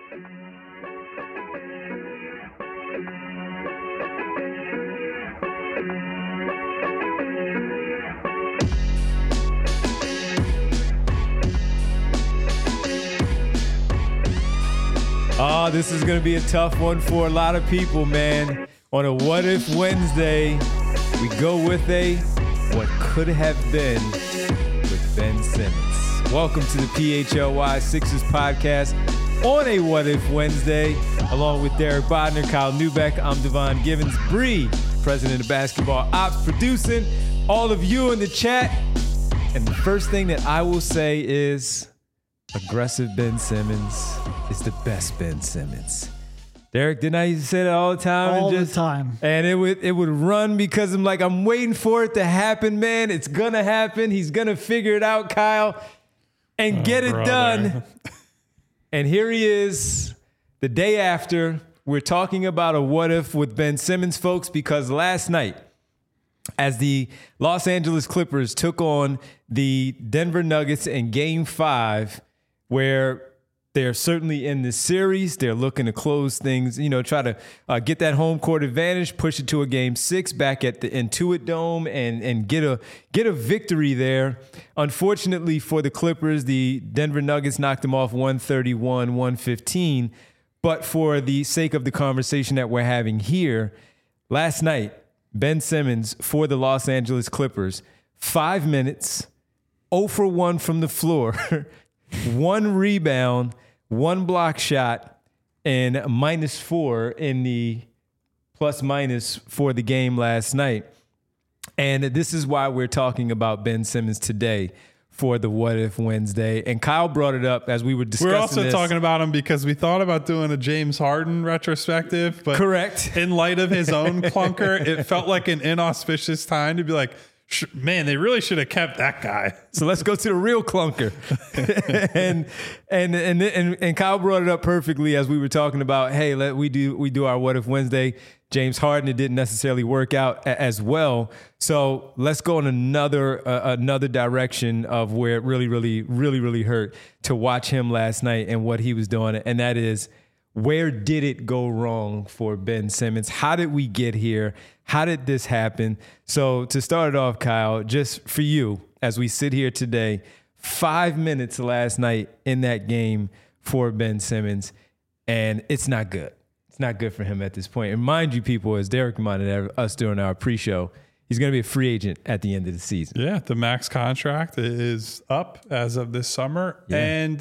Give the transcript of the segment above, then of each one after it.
Oh, this is going to be a tough one for a lot of people, man. On a What If Wednesday, we go with a What Could Have Been with Ben Simmons. Welcome to the PHLY Sixers podcast on a What If Wednesday, along with Derek Bodner, Kyle Neubeck. I'm Devon Givens, Bree, president of Basketball Ops, producing all of you in the chat. And the first thing that I will say is aggressive Ben Simmons is the best Ben Simmons. Derek, didn't I used to say that all the time? All the time. And it would run because I'm waiting for it to happen, man. It's going to happen. He's going to figure it out, Kyle, and get it done. And here he is the day after. We're talking about a what if with Ben Simmons, folks, because last night, as the Los Angeles Clippers took on the Denver Nuggets in Game 5, where they're certainly in this series. They're looking to close things, try to get that home court advantage, push it to a Game 6 back at the Intuit Dome and get a victory there. Unfortunately for the Clippers, the Denver Nuggets knocked them off 131-115. But for the sake of the conversation that we're having here, last night, Ben Simmons for the Los Angeles Clippers, 5 minutes, 0 for 1 from the floor, 1 rebound, 1 block shot, and -4 in the plus-minus for the game last night. And this is why we're talking about Ben Simmons today for the What If Wednesday. And Kyle brought it up as we were discussing We're also talking about him because we thought about doing a James Harden retrospective. But correct. In light of his own clunker, it felt like an inauspicious time to be like, man, they really should have kept that guy. So let's go to the real clunker. and Kyle brought it up perfectly as we were talking about, hey, we do our What If Wednesday. James Harden, it didn't necessarily work out as well. So let's go in another direction of where it really hurt to watch him last night and what he was doing. And that is, where did it go wrong for Ben Simmons? How did we get here? How did this happen? So to start it off, Kyle, just for you, as we sit here today, 5 minutes last night in that game for Ben Simmons, and it's not good. It's not good for him at this point. And mind you, people, as Derek reminded us during our pre-show, he's going to be a free agent at the end of the season. Yeah, the max contract is up as of this summer. Yeah. And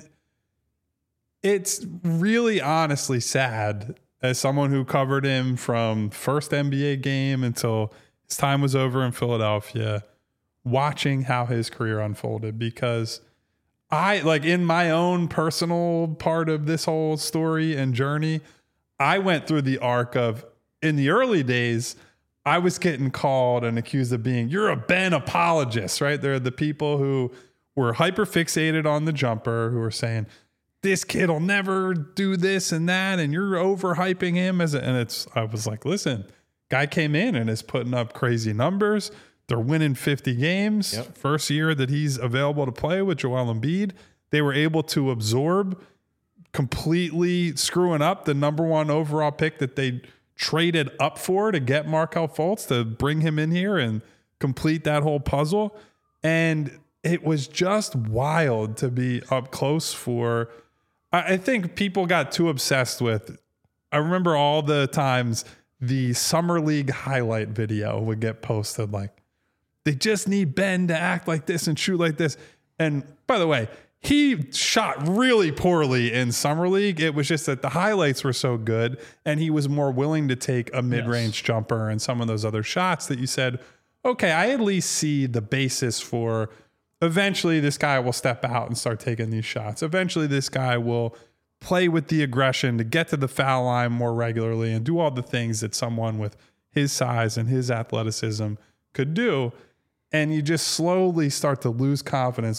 it's really honestly sad, as someone who covered him from first NBA game until his time was over in Philadelphia, watching how his career unfolded, because in my own personal part of this whole story and journey, I went through the arc of, in the early days, I was getting called and accused of being, you're a Ben apologist, right? There are the people who were hyper fixated on the jumper, who were saying, this kid will never do this and that, and you're overhyping him I was like, listen, guy came in and is putting up crazy numbers. They're winning 50 games. Yep. First year that he's available to play with Joel Embiid, they were able to absorb completely screwing up the number 1 overall pick that they traded up for to get Markelle Fultz to bring him in here and complete that whole puzzle. And it was just wild to be up close for. I think people got too obsessed with, I remember all the times the Summer League highlight video would get posted, like, they just need Ben to act like this and shoot like this. And by the way, he shot really poorly in Summer League. It was just that the highlights were so good, and he was more willing to take a mid-range jumper and some of those other shots that you said, okay, I at least see the basis for eventually this guy will step out and start taking these shots. Eventually this guy will play with the aggression to get to the foul line more regularly and do all the things that someone with his size and his athleticism could do. And you just slowly start to lose confidence.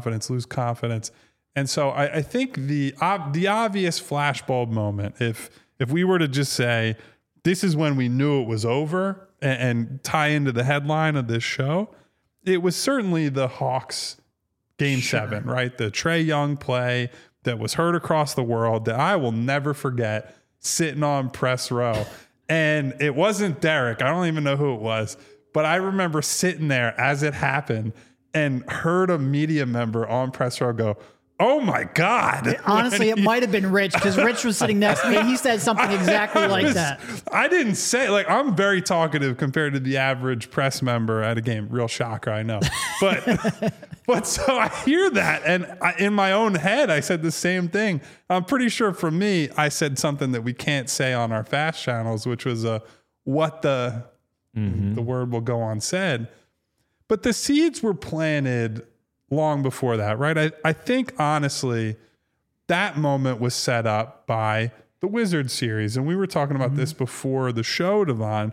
And so I think the obvious flashbulb moment, if we were to just say, this is when we knew it was over and tie into the headline of this show, it was certainly the Hawks Game 7, right? The Trae Young play, that was heard across the world that I will never forget, sitting on press row. And it wasn't Derek. I don't even know who it was. But I remember sitting there as it happened and heard a media member on press row go, "Oh my God." Honestly, it might have been Rich, because Rich was sitting next to me. He said something exactly like that. I didn't say, like, I'm very talkative compared to the average press member at a game. Real shocker, I know. But so I hear that, and in my own head, I said the same thing. I'm pretty sure for me, I said something that we can't say on our fast channels, which was what the word will go unsaid. But the seeds were planted long before that, right? I think, honestly, that moment was set up by the Wizards series. And we were talking about this before the show, Devon.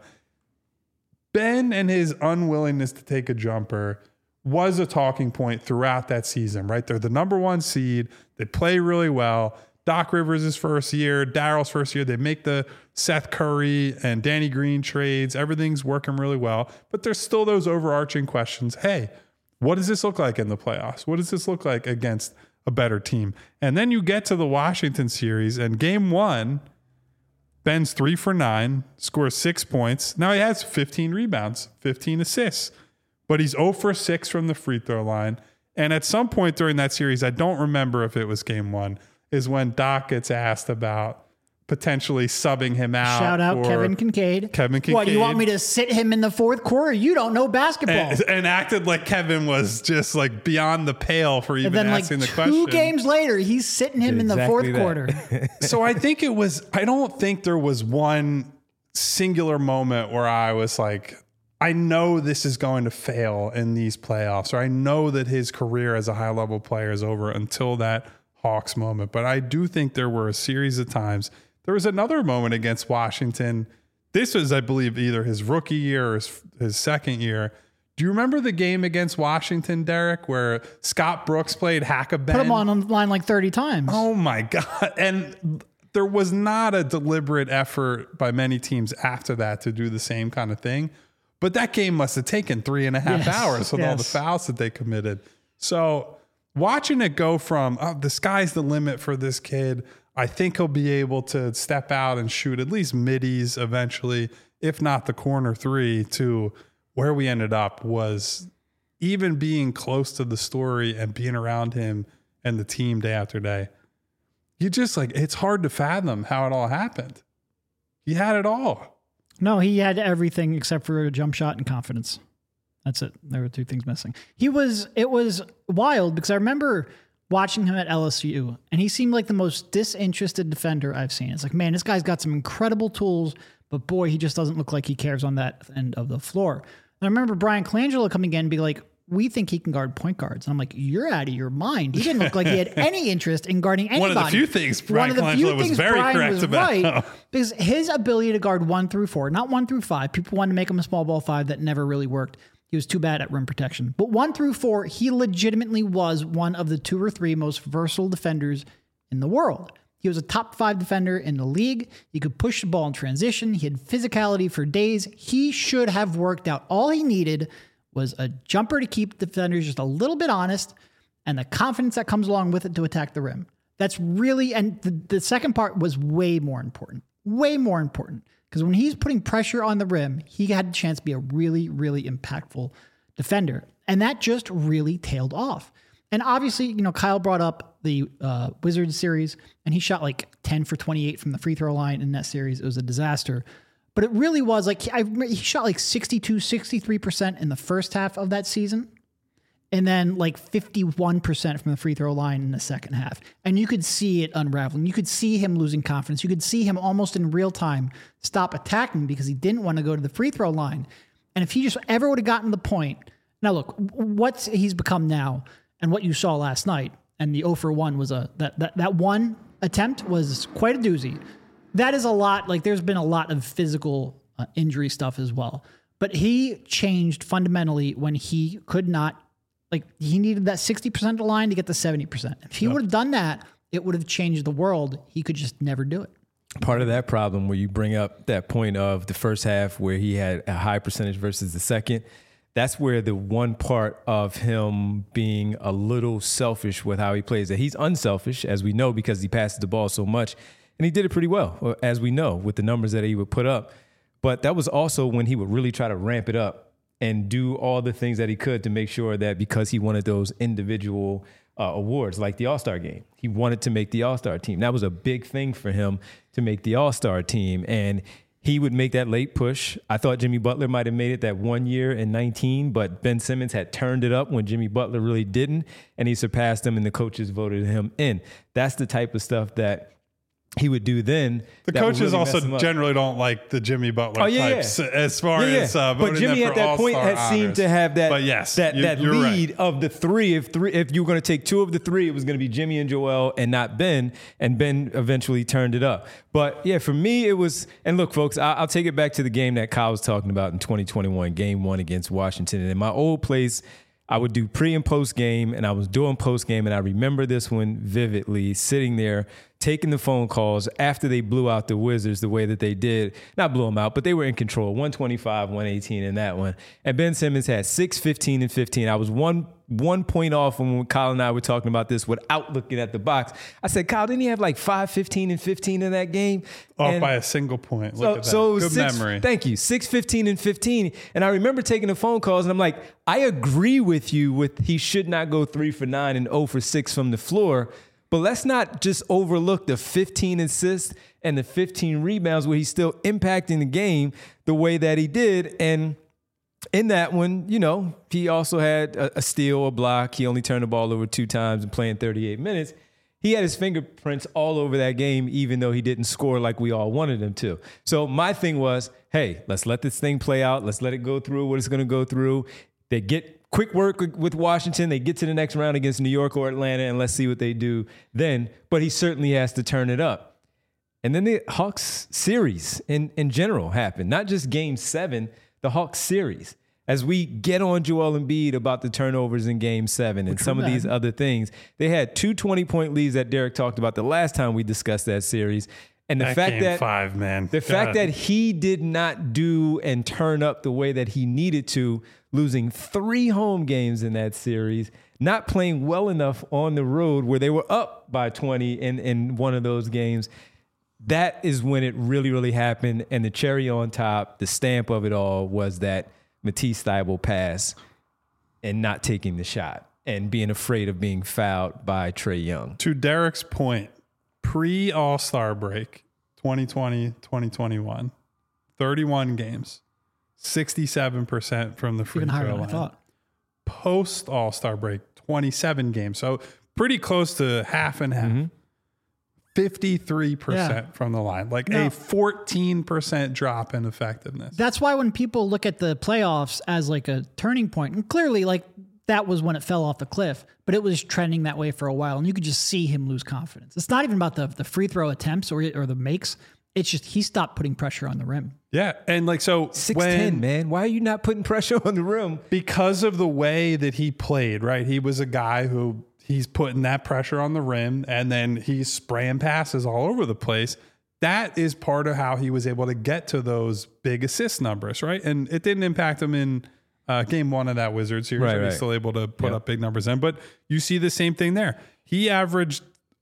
Ben and his unwillingness to take a jumper was a talking point throughout that season, right? They're the number 1 seed. They play really well. Doc Rivers' first year, Daryl's first year, they make the Seth Curry and Danny Green trades. Everything's working really well. But there's still those overarching questions. Hey, what does this look like in the playoffs? What does this look like against a better team? And then you get to the Washington series, and game 1, Ben's 3 for 9, scores 6 points. Now he has 15 rebounds, 15 assists, but he's 0 for 6 from the free throw line. And at some point during that series, I don't remember if it was game 1, is when Doc gets asked about potentially subbing him out. Shout out Kevin Kincaid. What, you want me to sit him in the fourth quarter? You don't know basketball. And acted like Kevin was just like beyond the pale for even asking the question. 2 games later, he's sitting him in the fourth quarter. So I don't think there was one singular moment where I was like, I know this is going to fail in these playoffs, or I know that his career as a high level player is over, until that Hawks moment. But I do think there were a series of times. There was another moment against Washington. This was, I believe, either his rookie year or his second year. Do you remember the game against Washington, Derek, where Scott Brooks played Hack-a-Ben? Put him on the line like 30 times. Oh, my God. And there was not a deliberate effort by many teams after that to do the same kind of thing. But that game must have taken 3.5 hours with all the fouls that they committed. So watching it go from, the sky's the limit for this kid, I think he'll be able to step out and shoot at least middies eventually, if not the corner 3, to where we ended up was even being close to the story and being around him and the team day after day. You just it's hard to fathom how it all happened. He had it all. No, he had everything except for a jump shot and confidence. That's it. There were 2 things missing. It was wild because I remember watching him at LSU, and he seemed like the most disinterested defender I've seen. It's like, man, this guy's got some incredible tools, but boy, he just doesn't look like he cares on that end of the floor. And I remember Brian Colangelo coming in and be like, we think he can guard point guards. And I'm like, you're out of your mind. He didn't look like he had any interest in guarding anybody. One of the few things Brian Colangelo was very correct about. Right, because his ability to guard 1 through 4, not 1 through 5, people wanted to make him a small ball 5 that never really worked. He was too bad at rim protection. But 1 through 4, he legitimately was one of the 2 or 3 most versatile defenders in the world. He was a top 5 defender in the league. He could push the ball in transition. He had physicality for days. He should have worked out. All he needed was a jumper to keep defenders just a little bit honest, and the confidence that comes along with it to attack the rim. That's really, and the second part was way more important. Way more important. Because when he's putting pressure on the rim, he had a chance to be a really, really impactful defender. And that just really tailed off. And obviously, Kyle brought up the Wizards series, and he shot 10 for 28 from the free throw line in that series. It was a disaster. But it really was he shot 62, 63% in the first half of that season. And then 51% from the free throw line in the second half. And you could see it unraveling. You could see him losing confidence. You could see him almost in real time stop attacking because he didn't want to go to the free throw line. And if he just ever would have gotten the point. Now, look, what he's become now and what you saw last night, and the 0 for 1 was that one attempt was quite a doozy. That is a lot. There's been a lot of physical injury stuff as well. But he changed fundamentally when he could not. He needed that 60% of the line to get to 70%. If he would have done that, it would have changed the world. He could just never do it. Part of that problem where you bring up that point of the first half where he had a high percentage versus the second, that's where the one part of him being a little selfish with how he plays, that he's unselfish, as we know, because he passes the ball so much. And he did it pretty well, as we know, with the numbers that he would put up. But that was also when he would really try to ramp it up and do all the things that he could to make sure that, because he wanted those individual awards like the All-Star game, he wanted to make the All-Star team. That was a big thing for him to make the All-Star team. And he would make that late push. I thought Jimmy Butler might have made it that 1 year in 19, but Ben Simmons had turned it up when Jimmy Butler really didn't, and he surpassed him, and the coaches voted him in. That's the type of stuff that he would do then. The coaches really also generally don't like the Jimmy Butler types as far as but Jimmy at that point had seemed to have that that lead right. of the three. If you were going to take two of the three, it was going to be Jimmy and Joel and not Ben, and Ben eventually turned it up. But yeah, for me, it was, and look, folks, I'll take it back to the game that Kyle was talking about in 2021, game 1 against Washington. And in my old place, I would do pre and post game, and I was doing post game, and I remember this one vividly, sitting there taking the phone calls after they blew out the Wizards the way that they did. Not blew them out, but they were in control. 125, 118 in that one. And Ben Simmons had 6, 15, and 15. I was one point off when Kyle and I were talking about this without looking at the box. I said, Kyle, didn't he have like 5, 15, and 15 in that game? Off by a single point. Look at that. So it was Good memory. Thank you. 6, 15, and 15. And I remember taking the phone calls, and I'm like, I agree with you with he should not go 3 for 9 and 0 for 6 from the floor. But let's not just overlook the 15 assists and the 15 rebounds where he's still impacting the game the way that he did. And in that one, you know, he also had a steal, a block. He only turned the ball over 2 times and playing 38 minutes. He had his fingerprints all over that game, even though he didn't score like we all wanted him to. So my thing was, hey, let's let this thing play out. Let's let it go through what it's going to go through. They get quick work with Washington. They get to the next round against New York or Atlanta, and let's see what they do then. But he certainly has to turn it up. And then the Hawks series in general happened, not just game 7, the Hawks series. As we get on Joel Embiid about the turnovers in game 7 and some of these other things, they had 2 20-point leads that Derek talked about the last time we discussed that series. And the fact game 5, man. The fact that he did not do and turn up the way that he needed to, losing 3 home games in that series, not playing well enough on the road where they were up by 20 in one of those games, that is when it really, really happened. And the cherry on top, the stamp of it all, was that Matisse Thybulle pass and not taking the shot and being afraid of being fouled by Trae Young. To Derek's point, pre-All-Star break, 2020, 2021, 31 games, 67% from the free throw line. Post-All-Star break, 27 games. So pretty close to half and half. 53% from the line, like a 14% drop in effectiveness. That's why when people look at the playoffs as like a turning point, and clearly like that was when it fell off the cliff, but it was trending that way for a while, and you could just see him lose confidence. It's not even about the free throw attempts or the makes. It's just he stopped putting pressure on the rim. Yeah, and like so 6'10", man. Why are you not putting pressure on the rim? Because of the way that he played, right? He was a guy who he's putting that pressure on the rim, and then he's spraying passes all over the place. That is part of how he was able to get to those big assist numbers, right? And it didn't impact him in game 1 of that Wizards series. Right. He's still able to put up big numbers in. But you see the same thing there. He averaged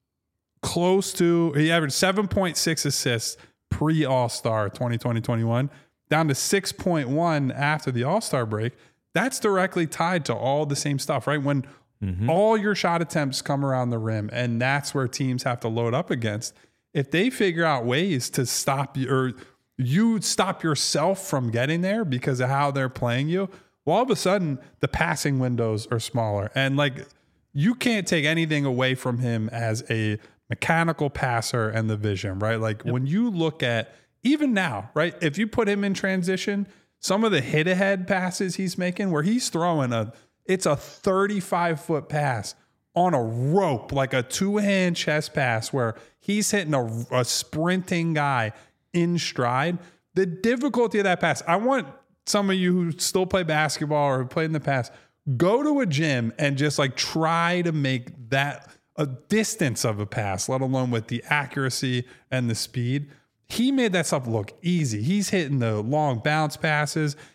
7.6 assists pre-All-Star 2020-21, down to 6.1 after the All-Star break. That's directly tied to all the same stuff, right? When all your shot attempts come around the rim, and that's where teams have to load up against. If they figure out ways to stop you, or you stop yourself from getting there because of how they're playing you, well, all of a sudden the passing windows are smaller. And like, you can't take anything away from him as a mechanical passer and the vision, right? Like when you look at, even now, right? If you put him in transition, some of the hit ahead passes he's making where he's throwing it's a 35-foot pass on a rope, like a 2-hand chest pass where he's hitting a sprinting guy in stride. The difficulty of that pass, I want some of you who still play basketball or who played in the past, go to a gym and just like try to make that a distance of a pass, let alone with the accuracy and the speed. He made that stuff look easy. He's hitting the long bounce passes.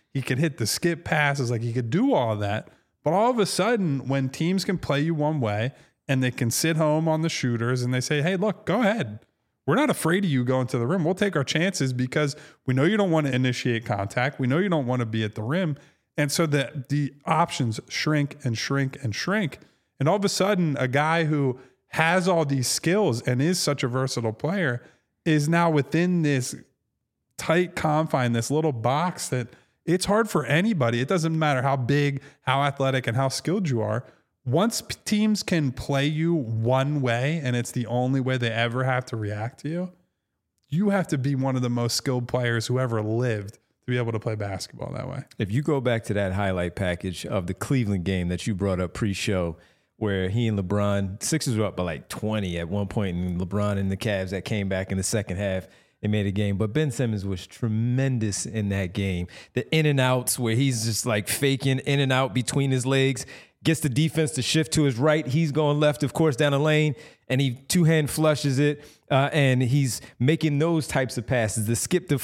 He could hit the skip passes. Like, he could do all of that. But all of a sudden, when teams can play you one way and they can sit home on the shooters and they say, hey, look, go ahead. We're not afraid of you going to the rim. We'll take our chances because we know you don't want to initiate contact. We know you don't want to be at the rim. And so the options shrink and shrink and shrink. And all of a sudden, a guy who has all these skills and is such a versatile player is now within this tight confine, this little box that it's hard for anybody. It doesn't matter how big, how athletic, and how skilled you are. Once teams can play you one way and it's the only way they ever have to react to you, you have to be one of the most skilled players who ever lived to be able to play basketball that way. If you go back to that highlight package of the Cleveland game that you brought up pre-show, where he and LeBron, Sixers were up by like 20 at one point, and LeBron and the Cavs that came back in the second half and made a game. But Ben Simmons was tremendous in that game. The in and outs where he's just like faking in and out between his legs, gets the defense to shift to his right. He's going left, of course, down the lane, and he two-hand flushes it, and he's making those types of passes. The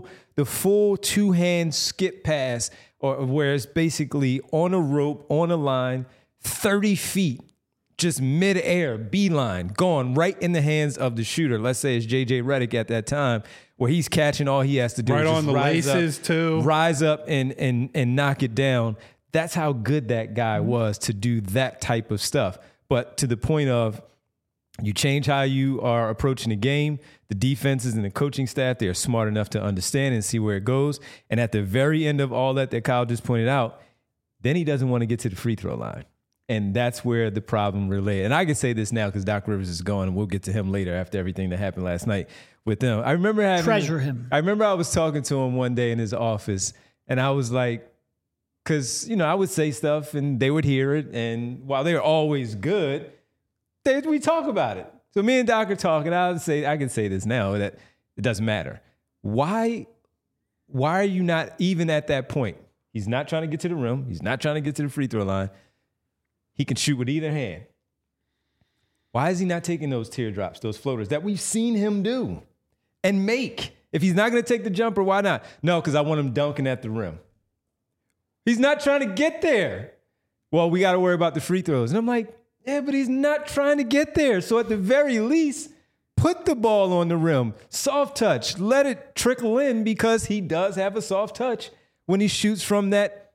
full two-hand skip pass, or where it's basically on a rope, on a line, 30 feet, just midair, beeline, gone right in the hands of the shooter. Let's say it's J.J. Redick at that time, where he's catching. All he has to do right is just on the laces too, rise up and knock it down. That's how good that guy was to do that type of stuff. But to the point of, you change how you are approaching the game, the defenses and the coaching staff, they are smart enough to understand and see where it goes. And at the very end of all that Kyle just pointed out, then he doesn't want to get to the free throw line. And that's where the problem related. And I can say this now because Doc Rivers is gone, and we'll get to him later after everything that happened last night with them. I remember treasure him. I remember I was talking to him one day in his office, and I was like, because, I would say stuff and they would hear it. And while they're always good, we talk about it. So me and Doc are talking. I can say this now, that it doesn't matter. Why are you not even at that point? He's not trying to get to the rim. He's not trying to get to the free throw line. He can shoot with either hand. Why is he not taking those teardrops, those floaters that we've seen him do and make? If he's not going to take the jumper, why not? No, because I want him dunking at the rim. He's not trying to get there. Well, we got to worry about the free throws. And I'm like, yeah, but he's not trying to get there. So at the very least, put the ball on the rim. Soft touch. Let it trickle in, because he does have a soft touch when he shoots from that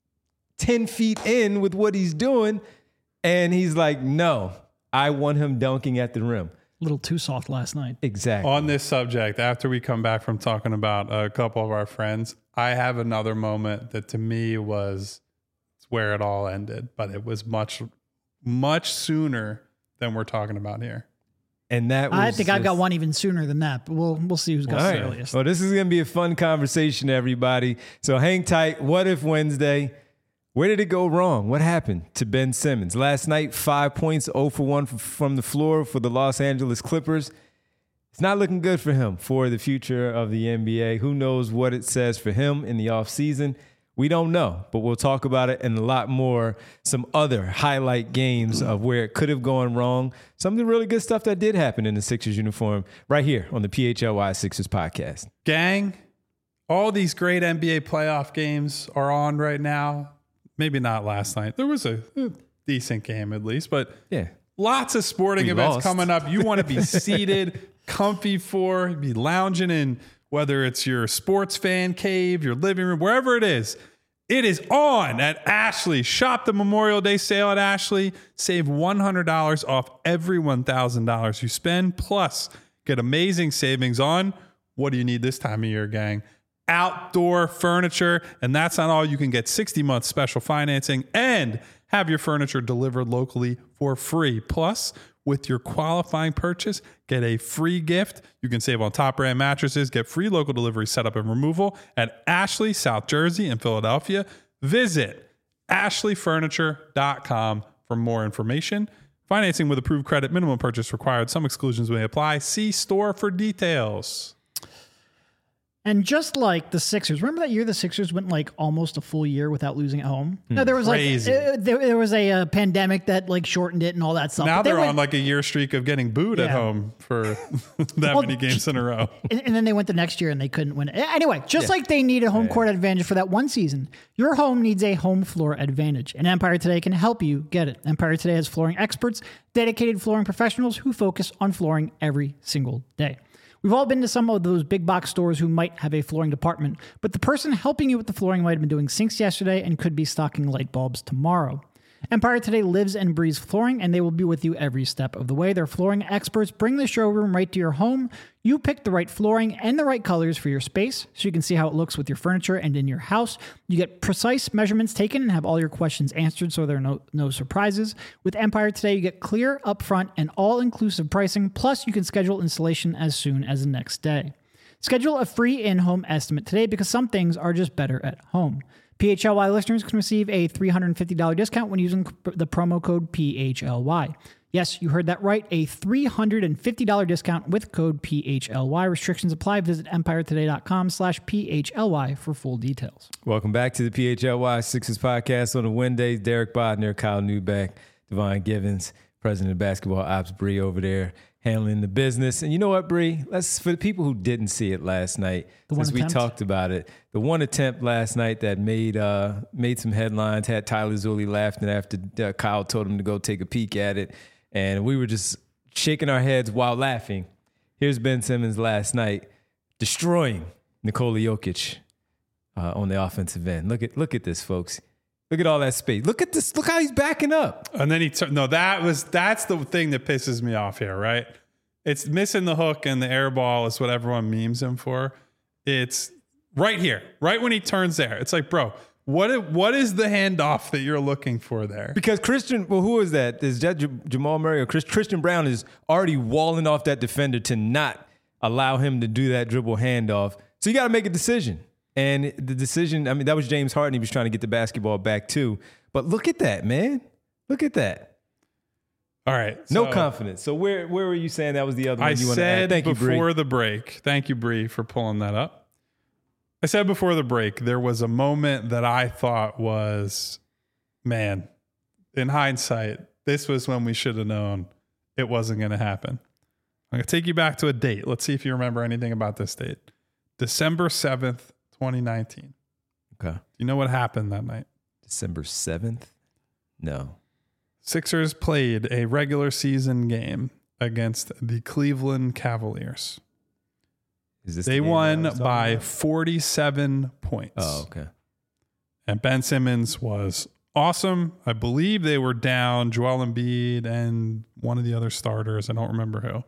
10 feet in with what he's doing. And he's like, no, I want him dunking at the rim. A little too soft last night. Exactly. On this subject, after we come back from talking about a couple of our friends, I have another moment that to me was where it all ended, but it was much, much sooner than we're talking about here. And that was I think I've got one even sooner than that, but we'll see who's got the earliest. Well, this is going to be a fun conversation, everybody. So hang tight. What If Wednesday? Where did it go wrong? What happened to Ben Simmons? Last night, 5 points, 0 for 1 from the floor for the Los Angeles Clippers. It's not looking good for him for the future of the NBA. Who knows what it says for him in the offseason? We don't know, but we'll talk about it and a lot more. Some other highlight games of where it could have gone wrong. Some of the really good stuff that did happen in the Sixers uniform right here on the PHLY Sixers podcast. Gang, all these great NBA playoff games are on right now. Maybe not last night. There was a decent game at least, but yeah, lots of sporting events coming up. You want to be seated, comfy be lounging in, whether it's your sports fan cave, your living room, wherever it is on at Ashley. Shop the Memorial Day sale at Ashley. Save $100 off every $1,000 you spend. Plus, get amazing savings on, what do you need this time of year, gang? Outdoor furniture. And that's not all. You can get 60-month special financing and have your furniture delivered locally for free. Plus, with your qualifying purchase, get a free gift. You can save on top brand mattresses, get free local delivery setup and removal at Ashley, South Jersey, and Philadelphia. Visit ashleyfurniture.com for more information. Financing with approved credit, minimum purchase required. Some exclusions may apply. See store for details. And just like the Sixers, remember that year the Sixers went like almost a full year without losing at home? No, there was Crazy. there was a pandemic that like shortened it and all that stuff. Now But they they're went- on like a year streak of getting booed at Yeah. home for that many games in a row. and then they went the next year and they couldn't win it. Anyway, just like they need a home court advantage for that one season, your home needs a home floor advantage. And Empire Today can help you get it. Empire Today has flooring experts, dedicated flooring professionals who focus on flooring every single day. We've all been to some of those big box stores who might have a flooring department, but the person helping you with the flooring might have been doing sinks yesterday and could be stocking light bulbs tomorrow. Empire Today lives and breathes flooring, and they will be with you every step of the way. Their flooring experts bring the showroom right to your home. You pick the right flooring and the right colors for your space so you can see how it looks with your furniture and in your house. You get precise measurements taken and have all your questions answered so there are no surprises. With Empire Today, you get clear, upfront, and all-inclusive pricing, plus you can schedule installation as soon as the next day. Schedule a free in-home estimate today because some things are just better at home. PHLY listeners can receive a $350 discount when using the promo code PHLY. Yes, you heard that right. A $350 discount with code PHLY. Restrictions apply. Visit empiretoday.com/PHLY for full details. Welcome back to the PHLY Sixers podcast on the Wednesdays. Derek Bodner, Kyle Newbeck, Devon Givens, president of basketball ops, Bree over there handling the business. And you know what, Bree? For the people who didn't see it last night, since we talked about it, the one attempt last night that made some headlines, had Tyler Zulli laughing after Kyle told him to go take a peek at it. And we were just shaking our heads while laughing. Here's Ben Simmons last night destroying Nikola Jokic on the offensive end. Look at this, folks. Look at all that space. Look at this. Look how he's backing up. And then that's the thing that pisses me off here, right? It's missing the hook and the air ball is what everyone memes him for. It's right here, right when he turns there. It's like, bro, what is the handoff that you're looking for there? Because who is that? Is that Jamal Murray or Christian Brown is already walling off that defender to not allow him to do that dribble handoff. So you got to make a decision. And the decision, I mean, that was James Harden. He was trying to get the basketball back too. But look at that, man. Look at that. All right. No confidence. So where were you saying that was the other one you want to add? Thank you, before the break. Thank you, Bree, for pulling that up. I said before the break, there was a moment that I thought was, man, in hindsight, this was when we should have known it wasn't going to happen. I'm going to take you back to a date. Let's see if you remember anything about this date. December 7th, 2019. Okay. Do you know what happened that night? December 7th? No. Sixers played a regular season game against the Cleveland Cavaliers. They won by 47 points. Oh, okay. And Ben Simmons was awesome. I believe they were down Joel Embiid and one of the other starters. I don't remember who.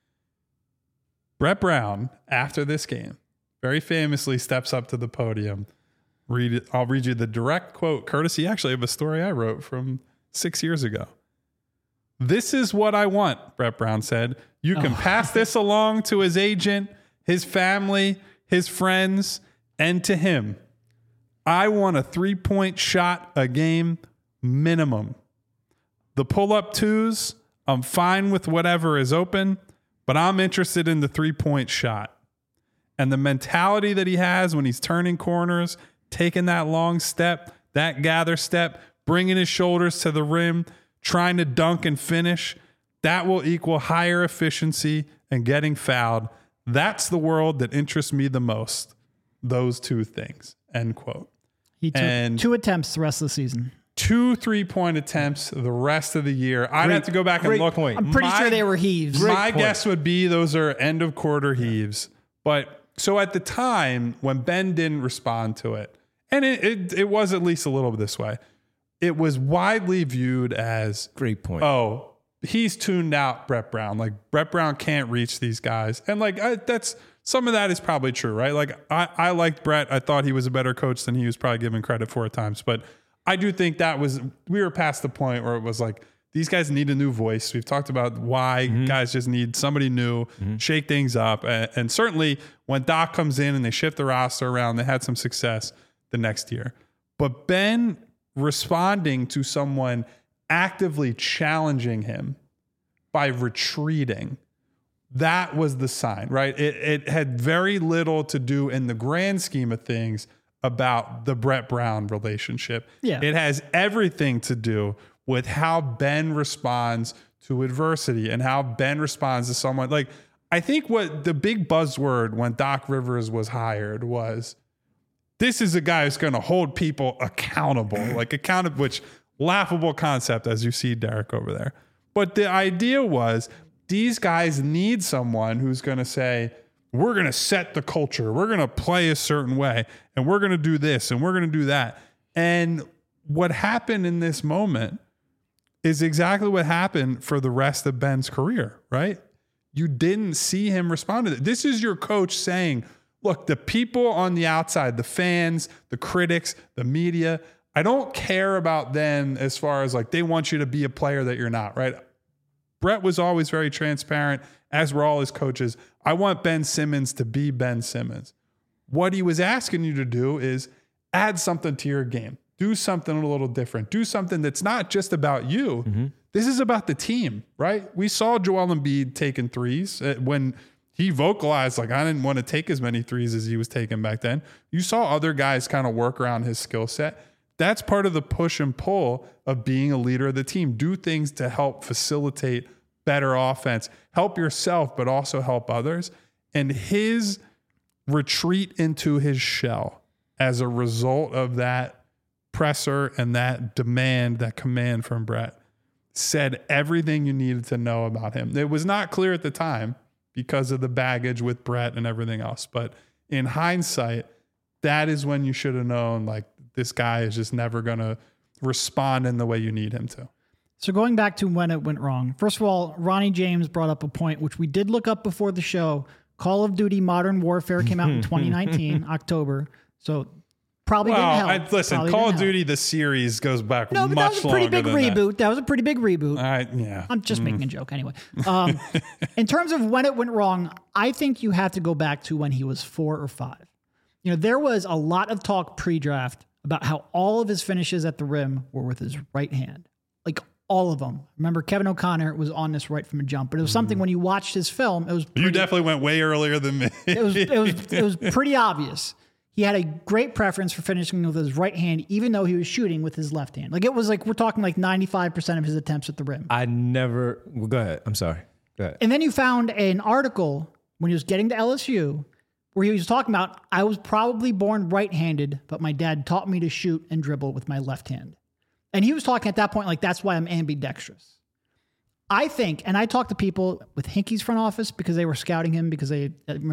Brett Brown, after this game, very famously steps up to the podium. I'll read you the direct quote, courtesy actually of a story I wrote from 6 years ago. "This is what I want," Brett Brown said. "You can pass this along to his agent, his family, his friends, and to him. I want a 3-point shot a game minimum. The pull-up twos, I'm fine with whatever is open, but I'm interested in the 3-point shot. And the mentality that he has when he's turning corners, taking that long step, that gather step, bringing his shoulders to the rim, trying to dunk and finish, that will equal higher efficiency and getting fouled. That's the world that interests me the most. Those two things." End quote. He took 2 attempts the rest of the season. 2 3-point attempts the rest of the year. I'd have to go back and look. Point. I'm pretty sure they were heaves. My guess would be those are end of quarter heaves. But so at the time when Ben didn't respond to it, and it was at least a little bit this way, it was widely viewed as Great point. Oh, he's tuned out Brett Brown. Like Brett Brown can't reach these guys. And like that's some of that is probably true, right? Like I liked Brett. I thought he was a better coach than he was probably given credit for at times. But I do think we were past the point where it was like, these guys need a new voice. We've talked about why guys just need somebody new, shake things up. And certainly when Doc comes in and they shift the roster around, they had some success the next year. But Ben responding to someone actively challenging him by retreating that was the sign, right? It had very little to do in the grand scheme of things about the Brett Brown relationship. Yeah. It has everything to do with how Ben responds to adversity and how Ben responds to someone. Like, I think what the big buzzword when Doc Rivers was hired was, this is a guy who's going to hold people accountable, which laughable concept as you see Derek over there. But the idea was these guys need someone who's going to say, we're going to set the culture. We're going to play a certain way and we're going to do this and we're going to do that. And what happened in this moment is exactly what happened for the rest of Ben's career, right? You didn't see him respond to it. This is your coach saying, look, the people on the outside, the fans, the critics, the media, I don't care about them as far as like they want you to be a player that you're not, right? Brett was always very transparent, as were all his coaches. I want Ben Simmons to be Ben Simmons. What he was asking you to do is add something to your game. Do something a little different. Do something that's not just about you. Mm-hmm. This is about the team, right? We saw Joel Embiid taking threes when he vocalized, like, I didn't want to take as many threes as he was taking back then. You saw other guys kind of work around his skill set. That's part of the push and pull of being a leader of the team. Do things to help facilitate better offense. Help yourself, but also help others. And his retreat into his shell as a result of that presser and that demand, that command from Brett, said everything you needed to know about him. It was not clear at the time because of the baggage with Brett and everything else. But in hindsight, that is when you should have known, like, this guy is just never going to respond in the way you need him to. So going back to when it went wrong, first of all, Ronnie James brought up a point, which we did look up before the show. Call of Duty Modern Warfare came out in 2019, October. So probably didn't help. Listen, Call of Duty, the series goes back much longer than that. That was a pretty big reboot. That was a pretty big reboot. Yeah. I'm just making a joke anyway. In terms of when it went wrong, I think you have to go back to when he was 4 or 5. You know, there was a lot of talk pre-draft about how all of his finishes at the rim were with his right hand. Like, all of them. Remember, Kevin O'Connor was on this right from a jump, but it was something when you watched his film, it was pretty, you definitely went way earlier than me. it was pretty obvious. He had a great preference for finishing with his right hand, even though he was shooting with his left hand. Like, it was like, we're talking like 95% of his attempts at the rim. Well, go ahead. I'm sorry. Go ahead. And then you found an article when he was getting to LSU where he was talking about, I was probably born right-handed, but my dad taught me to shoot and dribble with my left hand. And he was talking at that point, like, that's why I'm ambidextrous. I think, and I talked to people with Hinkie's front office because they were scouting him because they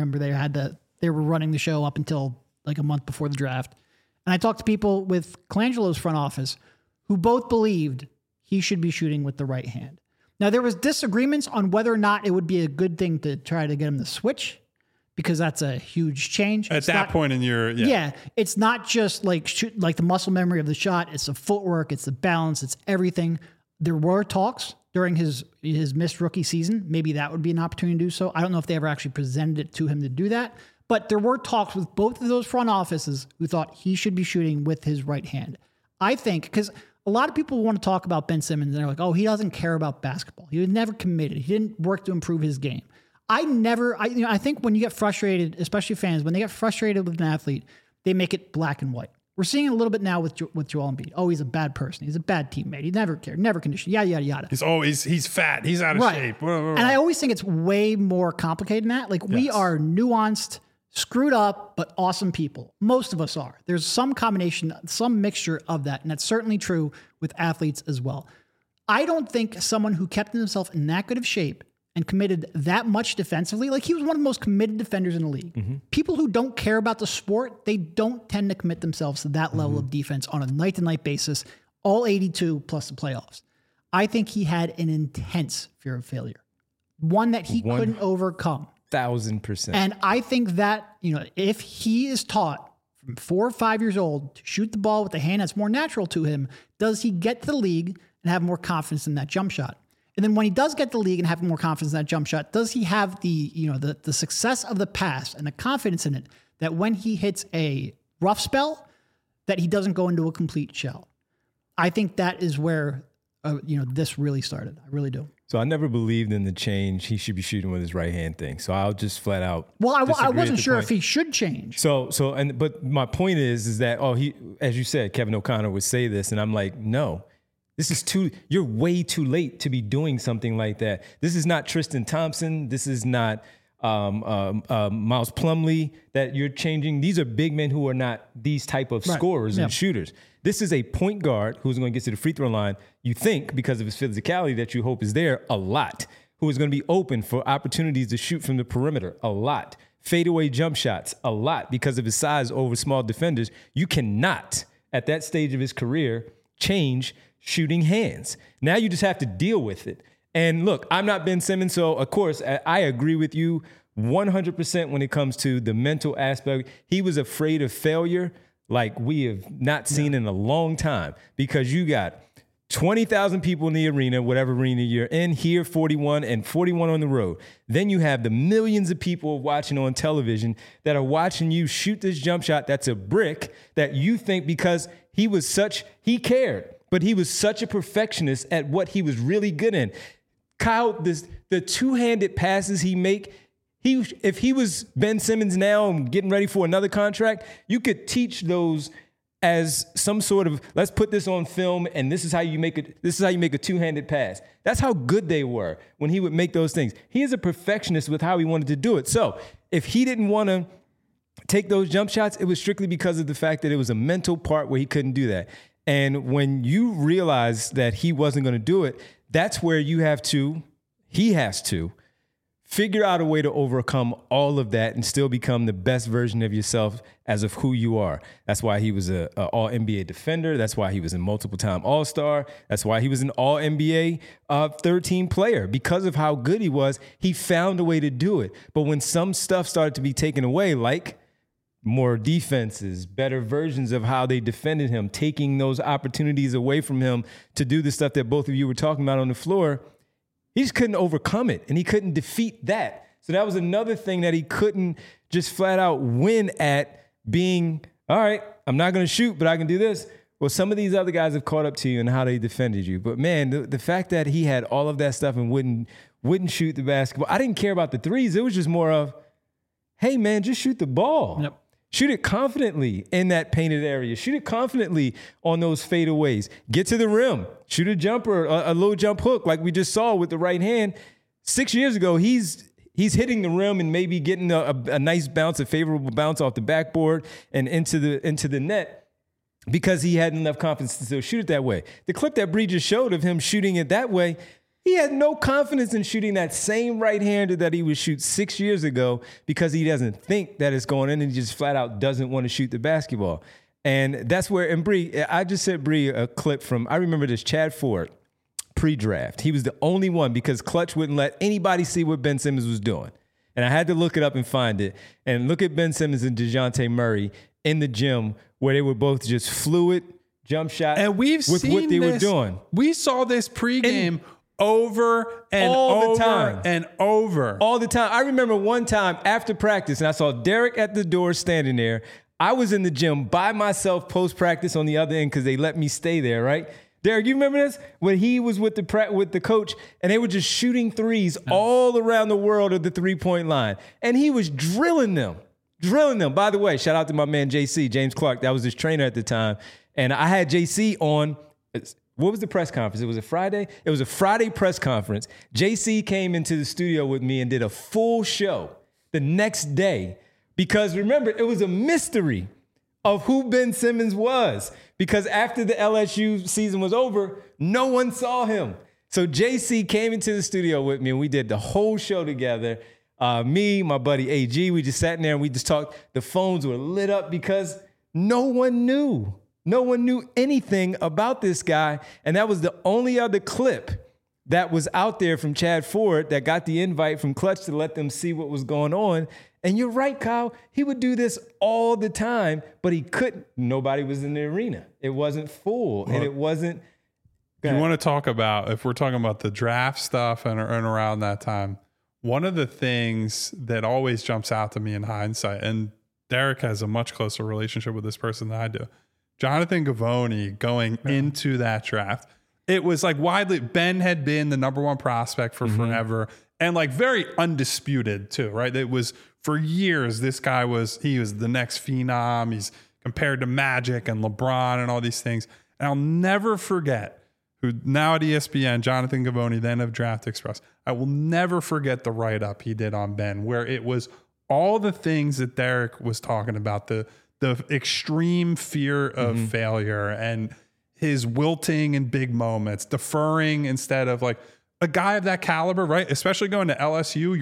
were running the show up until like a month before the draft. And I talked to people with Colangelo's front office who both believed he should be shooting with the right hand. Now, there was disagreements on whether or not it would be a good thing to try to get him to switch, because that's a huge change. At that point in your... Yeah, it's not just like the muscle memory of the shot. It's the footwork. It's the balance. It's everything. There were talks during his missed rookie season. Maybe that would be an opportunity to do so. I don't know if they ever actually presented it to him to do that. But there were talks with both of those front offices who thought he should be shooting with his right hand. I think, because a lot of people want to talk about Ben Simmons, and they're like, oh, he doesn't care about basketball. He was never committed. He didn't work to improve his game. I think when you get frustrated, especially fans, when they get frustrated with an athlete, they make it black and white. We're seeing it a little bit now with Joel Embiid. Oh, he's a bad person. He's a bad teammate. He never cared, never conditioned, yada, yada, yada. He's fat. He's out of shape. And I always think it's way more complicated than that. Like, we are nuanced, screwed up, but awesome people. Most of us are. There's some combination, some mixture of that. And that's certainly true with athletes as well. I don't think someone who kept himself in that good of shape and committed that much defensively, like, he was one of the most committed defenders in the league. Mm-hmm. People who don't care about the sport, they don't tend to commit themselves to that level of defense on a night-to-night basis, all 82 plus the playoffs. I think he had an intense fear of failure, one that he couldn't overcome. 1,000%. And I think that, if he is taught from 4 or 5 years old to shoot the ball with the hand that's more natural to him, does he get to the league and have more confidence in that jump shot? And then when he does get the league and have more confidence in that jump shot, does he have the success of the past and the confidence in it that when he hits a rough spell, that he doesn't go into a complete shell? I think that is where this really started. I really do. So I never believed in the change. He should be shooting with his right hand thing. So I'll just flat out. Well, I disagree wasn't at the sure point. if he should change. But my point is that, he, as you said, Kevin O'Connor would say this. And I'm like, no, you're way too late to be doing something like that. This is not Tristan Thompson. This is not Miles Plumlee that you're changing. These are big men who are not these type of scorers and shooters. This is a point guard who's going to get to the free throw line, you think, because of his physicality that you hope is there a lot, who is going to be open for opportunities to shoot from the perimeter a lot, fadeaway jump shots a lot because of his size over small defenders. You cannot, at that stage of his career, change shooting hands. Now you just have to deal with it. And look, I'm not Ben Simmons, so of course I agree with you 100% when it comes to the mental aspect. He was afraid of failure like we have not seen in a long time, because you got 20,000 people in the arena, whatever arena you're in, here 41 and 41 on the road. Then you have the millions of people watching on television that are watching you shoot this jump shot that's a brick that you think because he cared, but he was such a perfectionist at what he was really good in. Kyle, the two-handed passes he make, if he was Ben Simmons now and getting ready for another contract, you could teach those as some sort of, let's put this on film and this is how you make it. This is how you make a two-handed pass. That's how good they were when he would make those things. He is a perfectionist with how he wanted to do it. So if he didn't want to take those jump shots, it was strictly because of the fact that it was a mental part where he couldn't do that. And when you realize that he wasn't going to do it, that's where he has to figure out a way to overcome all of that and still become the best version of yourself as of who you are. That's why he was an all-NBA defender. That's why he was a multiple-time All-Star. That's why he was an all-NBA third-team player. Because of how good he was, he found a way to do it. But when some stuff started to be taken away, like more defenses, better versions of how they defended him, taking those opportunities away from him to do the stuff that both of you were talking about on the floor, he just couldn't overcome it, and he couldn't defeat that. So that was another thing that he couldn't just flat out win at, being, all right, I'm not going to shoot, but I can do this. Well, some of these other guys have caught up to you in how they defended you. But, man, the fact that he had all of that stuff and wouldn't shoot the basketball, I didn't care about the threes. It was just more of, hey, man, just shoot the ball. Yep. Shoot it confidently in that painted area. Shoot it confidently on those fadeaways. Get to the rim. Shoot a jumper, a low jump hook like we just saw with the right hand. 6 years ago, he's hitting the rim and maybe getting a nice bounce, a favorable bounce off the backboard and into the net because he had enough confidence to still shoot it that way. The clip that Bree just showed of him shooting it that way, he had no confidence in shooting that same right-hander that he would shoot 6 years ago because he doesn't think that it's going in and he just flat out doesn't want to shoot the basketball. And that's where, and Bree, I just sent Bree a clip from, I remember this, Chad Ford, pre-draft. He was the only one because Clutch wouldn't let anybody see what Ben Simmons was doing. And I had to look it up and find it. And look at Ben Simmons and DeJounte Murray in the gym where they were both just fluid jump shots and we've with seen what they were doing. We saw this pregame over and all the over time. and over. All the time. I remember one time after practice, and I saw Derek at the door standing there. I was in the gym by myself post-practice on the other end because they let me stay there, right? Derek, you remember this? When he was with the coach, and they were just shooting threes all around the world of the three-point line. And he was drilling them. By the way, shout out to my man JC, James Clark. That was his trainer at the time. And I had JC on... What was the press conference? It was a Friday? It was a Friday press conference. JC came into the studio with me and did a full show the next day because, remember, it was a mystery of who Ben Simmons was because after the LSU season was over, no one saw him. So JC came into the studio with me and we did the whole show together. Me, my buddy AG, we just sat in there and we just talked. The phones were lit up because no one knew. No one knew anything about this guy, and that was the only other clip that was out there from Chad Ford that got the invite from Clutch to let them see what was going on. And you're right, Kyle. He would do this all the time, but he couldn't. Nobody was in the arena. It wasn't full, and it wasn't. You want to talk about, if we're talking about the draft stuff and around that time, one of the things that always jumps out to me in hindsight, and Derek has a much closer relationship with this person than I do, Jonathan Givony going into that draft. it was like widely, Ben had been the number one prospect for forever and like very undisputed too, right? It was for years, this guy he was the next phenom. He's compared to Magic and LeBron and all these things. And I'll never forget who now at ESPN, Jonathan Givony, then of Draft Express. I will never forget the write-up he did on Ben, where it was all the things that Derek was talking about, the extreme fear of failure and his wilting in big moments, deferring instead of like a guy of that caliber, right? Especially going to LSU,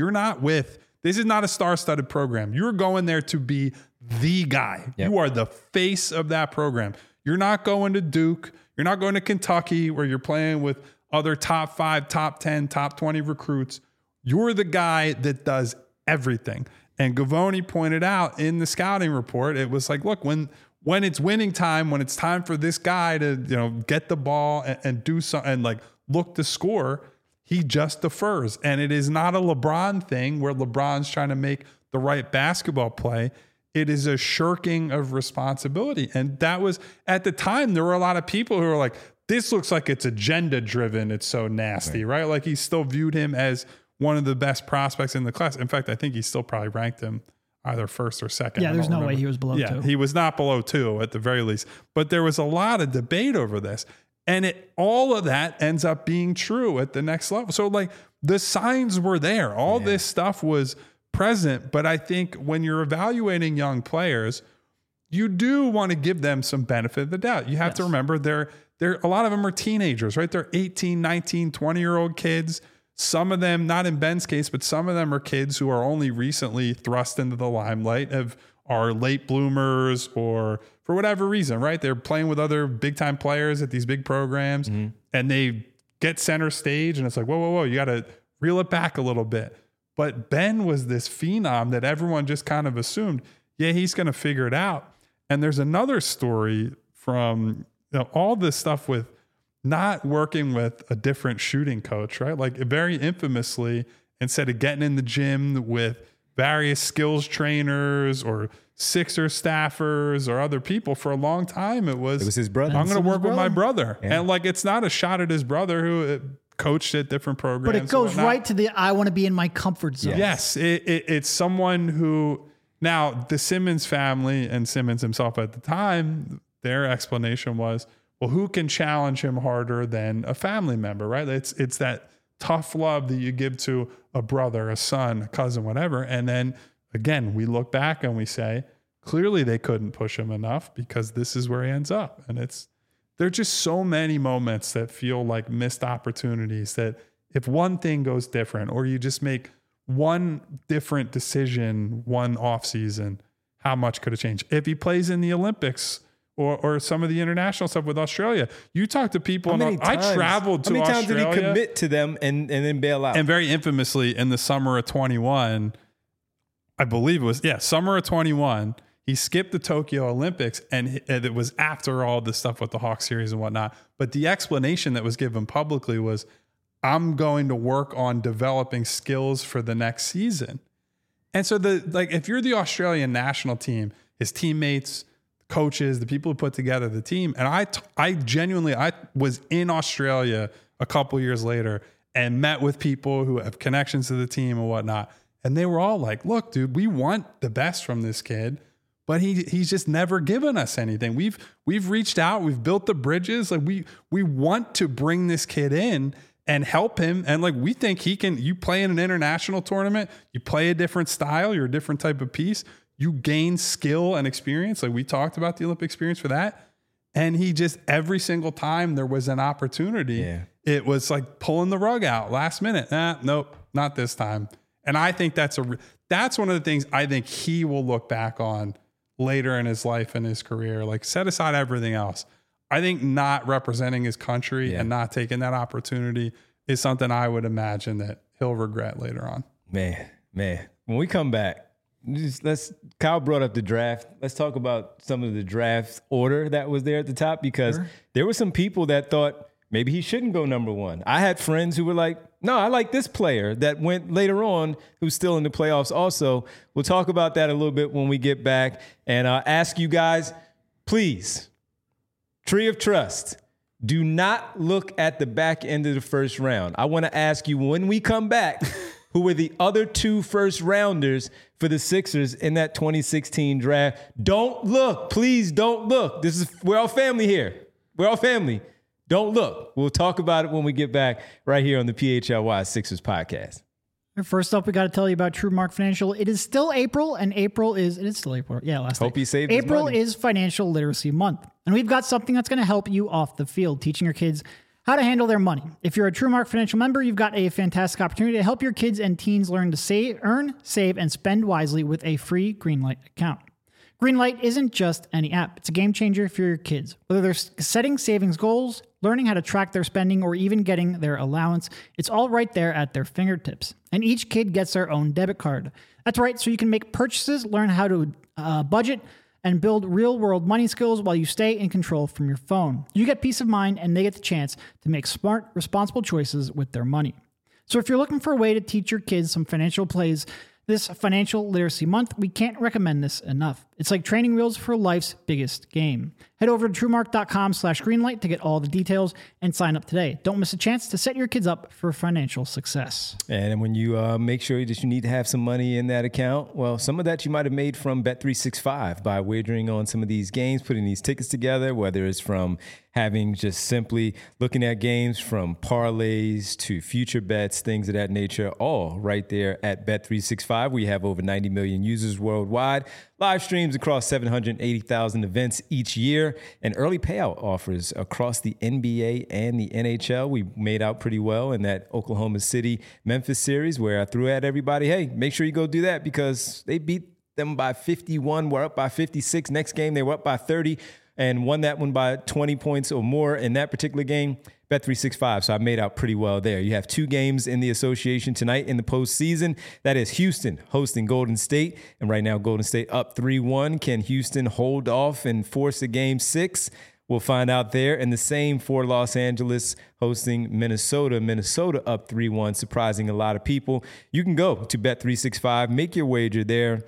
this is not a star-studded program. You're going there to be the guy. Yep. You are the face of that program. You're not going to Duke. You're not going to Kentucky where you're playing with other top 5, top 10, top 20 recruits. You're the guy that does everything. And Givony pointed out in the scouting report, it was like, look, when it's winning time, when it's time for this guy to, get the ball and do something and like look to score, he just defers. And it is not a LeBron thing where LeBron's trying to make the right basketball play. It is a shirking of responsibility. And that was, at the time, there were a lot of people who were like, this looks like it's agenda driven. It's so nasty, right? Like he still viewed him as one of the best prospects in the class. In fact, I think he still probably ranked him either first or second. Yeah, there's no way he was below 2. He was not below 2 at the very least. But there was a lot of debate over this. And all of that ends up being true at the next level. So like the signs were there. All this stuff was present. But I think when you're evaluating young players, you do want to give them some benefit of the doubt. You have to remember they're a lot of them are teenagers, right? They're 18, 19, 20-year-old kids. Some of them, not in Ben's case, but some of them are kids who are only recently thrust into the limelight, are late bloomers or for whatever reason, right? They're playing with other big-time players at these big programs and they get center stage and it's like, whoa, you got to reel it back a little bit. But Ben was this phenom that everyone just kind of assumed, he's going to figure it out. And there's another story from all this stuff with not working with a different shooting coach, right? Like very infamously, instead of getting in the gym with various skills trainers or Sixer staffers or other people for a long time, it was his brother. I'm going to work with my brother. Yeah. And like, it's not a shot at his brother who coached at different programs. But it goes right to I want to be in my comfort zone. Yes. It's someone who, now the Simmons family and Simmons himself at the time, their explanation was, well, who can challenge him harder than a family member, right? It's that tough love that you give to a brother, a son, a cousin, whatever. And then again, we look back and we say, clearly they couldn't push him enough because this is where he ends up. And there's just so many moments that feel like missed opportunities that if one thing goes different or you just make one different decision one off season, how much could it change? If he plays in the Olympics, or some of the international stuff with Australia. You talk to people. I traveled to Australia. How many times did he commit to them and then bail out? And very infamously in the summer of 21, I believe it was, summer of 21, he skipped the Tokyo Olympics and it was after all the stuff with the Hawks series and whatnot. But the explanation that was given publicly was, I'm going to work on developing skills for the next season. And so if you're the Australian national team, his teammates, coaches, the people who put together the team. And I genuinely was in Australia a couple years later and met with people who have connections to the team and whatnot. And they were all like, look, dude, we want the best from this kid, but he's just never given us anything. We've reached out, we've built the bridges. Like we want to bring this kid in and help him. And like, we think you play in an international tournament, you play a different style, you're a different type of piece. You gain skill and experience. Like we talked about the Olympic experience for that. And he just, every single time there was an opportunity, it was like pulling the rug out last minute. Nope, not this time. And I think that's one of the things I think he will look back on later in his life and his career. Like set aside everything else. I think not representing his country and not taking that opportunity is something I would imagine that he'll regret later on. Man, when we come back, Kyle brought up the draft. Let's talk about some of the draft order that was there at the top, because there were some people that thought maybe he shouldn't go number 1. I had friends who were like, no, I like this player that went later on who's still in the playoffs also. We'll talk about that a little bit when we get back. And I'll ask you guys, please, Tree of Trust, Do not look at the back end of the first round. I want to ask you when we come back, who were the other 2 first rounders for the Sixers in that 2016 draft? Don't look. Please don't look. We're all family here. We're all family. Don't look. We'll talk about it when we get back right here on the PHLY Sixers podcast. First up, we got to tell you about TrueMark Financial. It is still April, and it is still April. Yeah, last Hope day. you saved his April money. is Financial Literacy Month, and we've got something that's going to help you off the field, teaching your kids how to handle their money. If you're a TrueMark Financial member, you've got a fantastic opportunity to help your kids and teens learn to earn, save, and spend wisely with a free Greenlight account. Greenlight isn't just any app. It's a game changer for your kids. Whether they're setting savings goals, learning how to track their spending, or even getting their allowance, it's all right there at their fingertips. And each kid gets their own debit card. That's right, so you can make purchases, learn how to budget, and build real-world money skills while you stay in control from your phone. You get peace of mind, and they get the chance to make smart, responsible choices with their money. So if you're looking for a way to teach your kids some financial plays this Financial Literacy Month, we can't recommend this enough. It's like training wheels for life's biggest game. Head over to TrueMark.com/greenlight to get all the details and sign up today. Don't miss a chance to set your kids up for financial success. And when you make sure that you need to have some money in that account, well, some of that you might have made from Bet365 by wagering on some of these games, putting these tickets together, whether it's from having just simply looking at games from parlays to future bets, things of that nature, all right there at Bet365. We have over 90 million users worldwide, live streams across 780,000 events each year, and early payout offers across the NBA and the NHL. We made out pretty well in that Oklahoma City Memphis series where I threw at everybody, hey, make sure you go do that because they beat them by 51. We're up by 56. Next game, they were up by 30 and won that one by 20 points or more in that particular game. Bet365, so I made out pretty well there. You have 2 games in the association tonight in the postseason. That is Houston hosting Golden State, and right now Golden State up 3-1. Can Houston hold off and force a game 6? We'll find out there. And the same for Los Angeles hosting Minnesota. Minnesota up 3-1, surprising a lot of people. You can go to Bet365, make your wager there,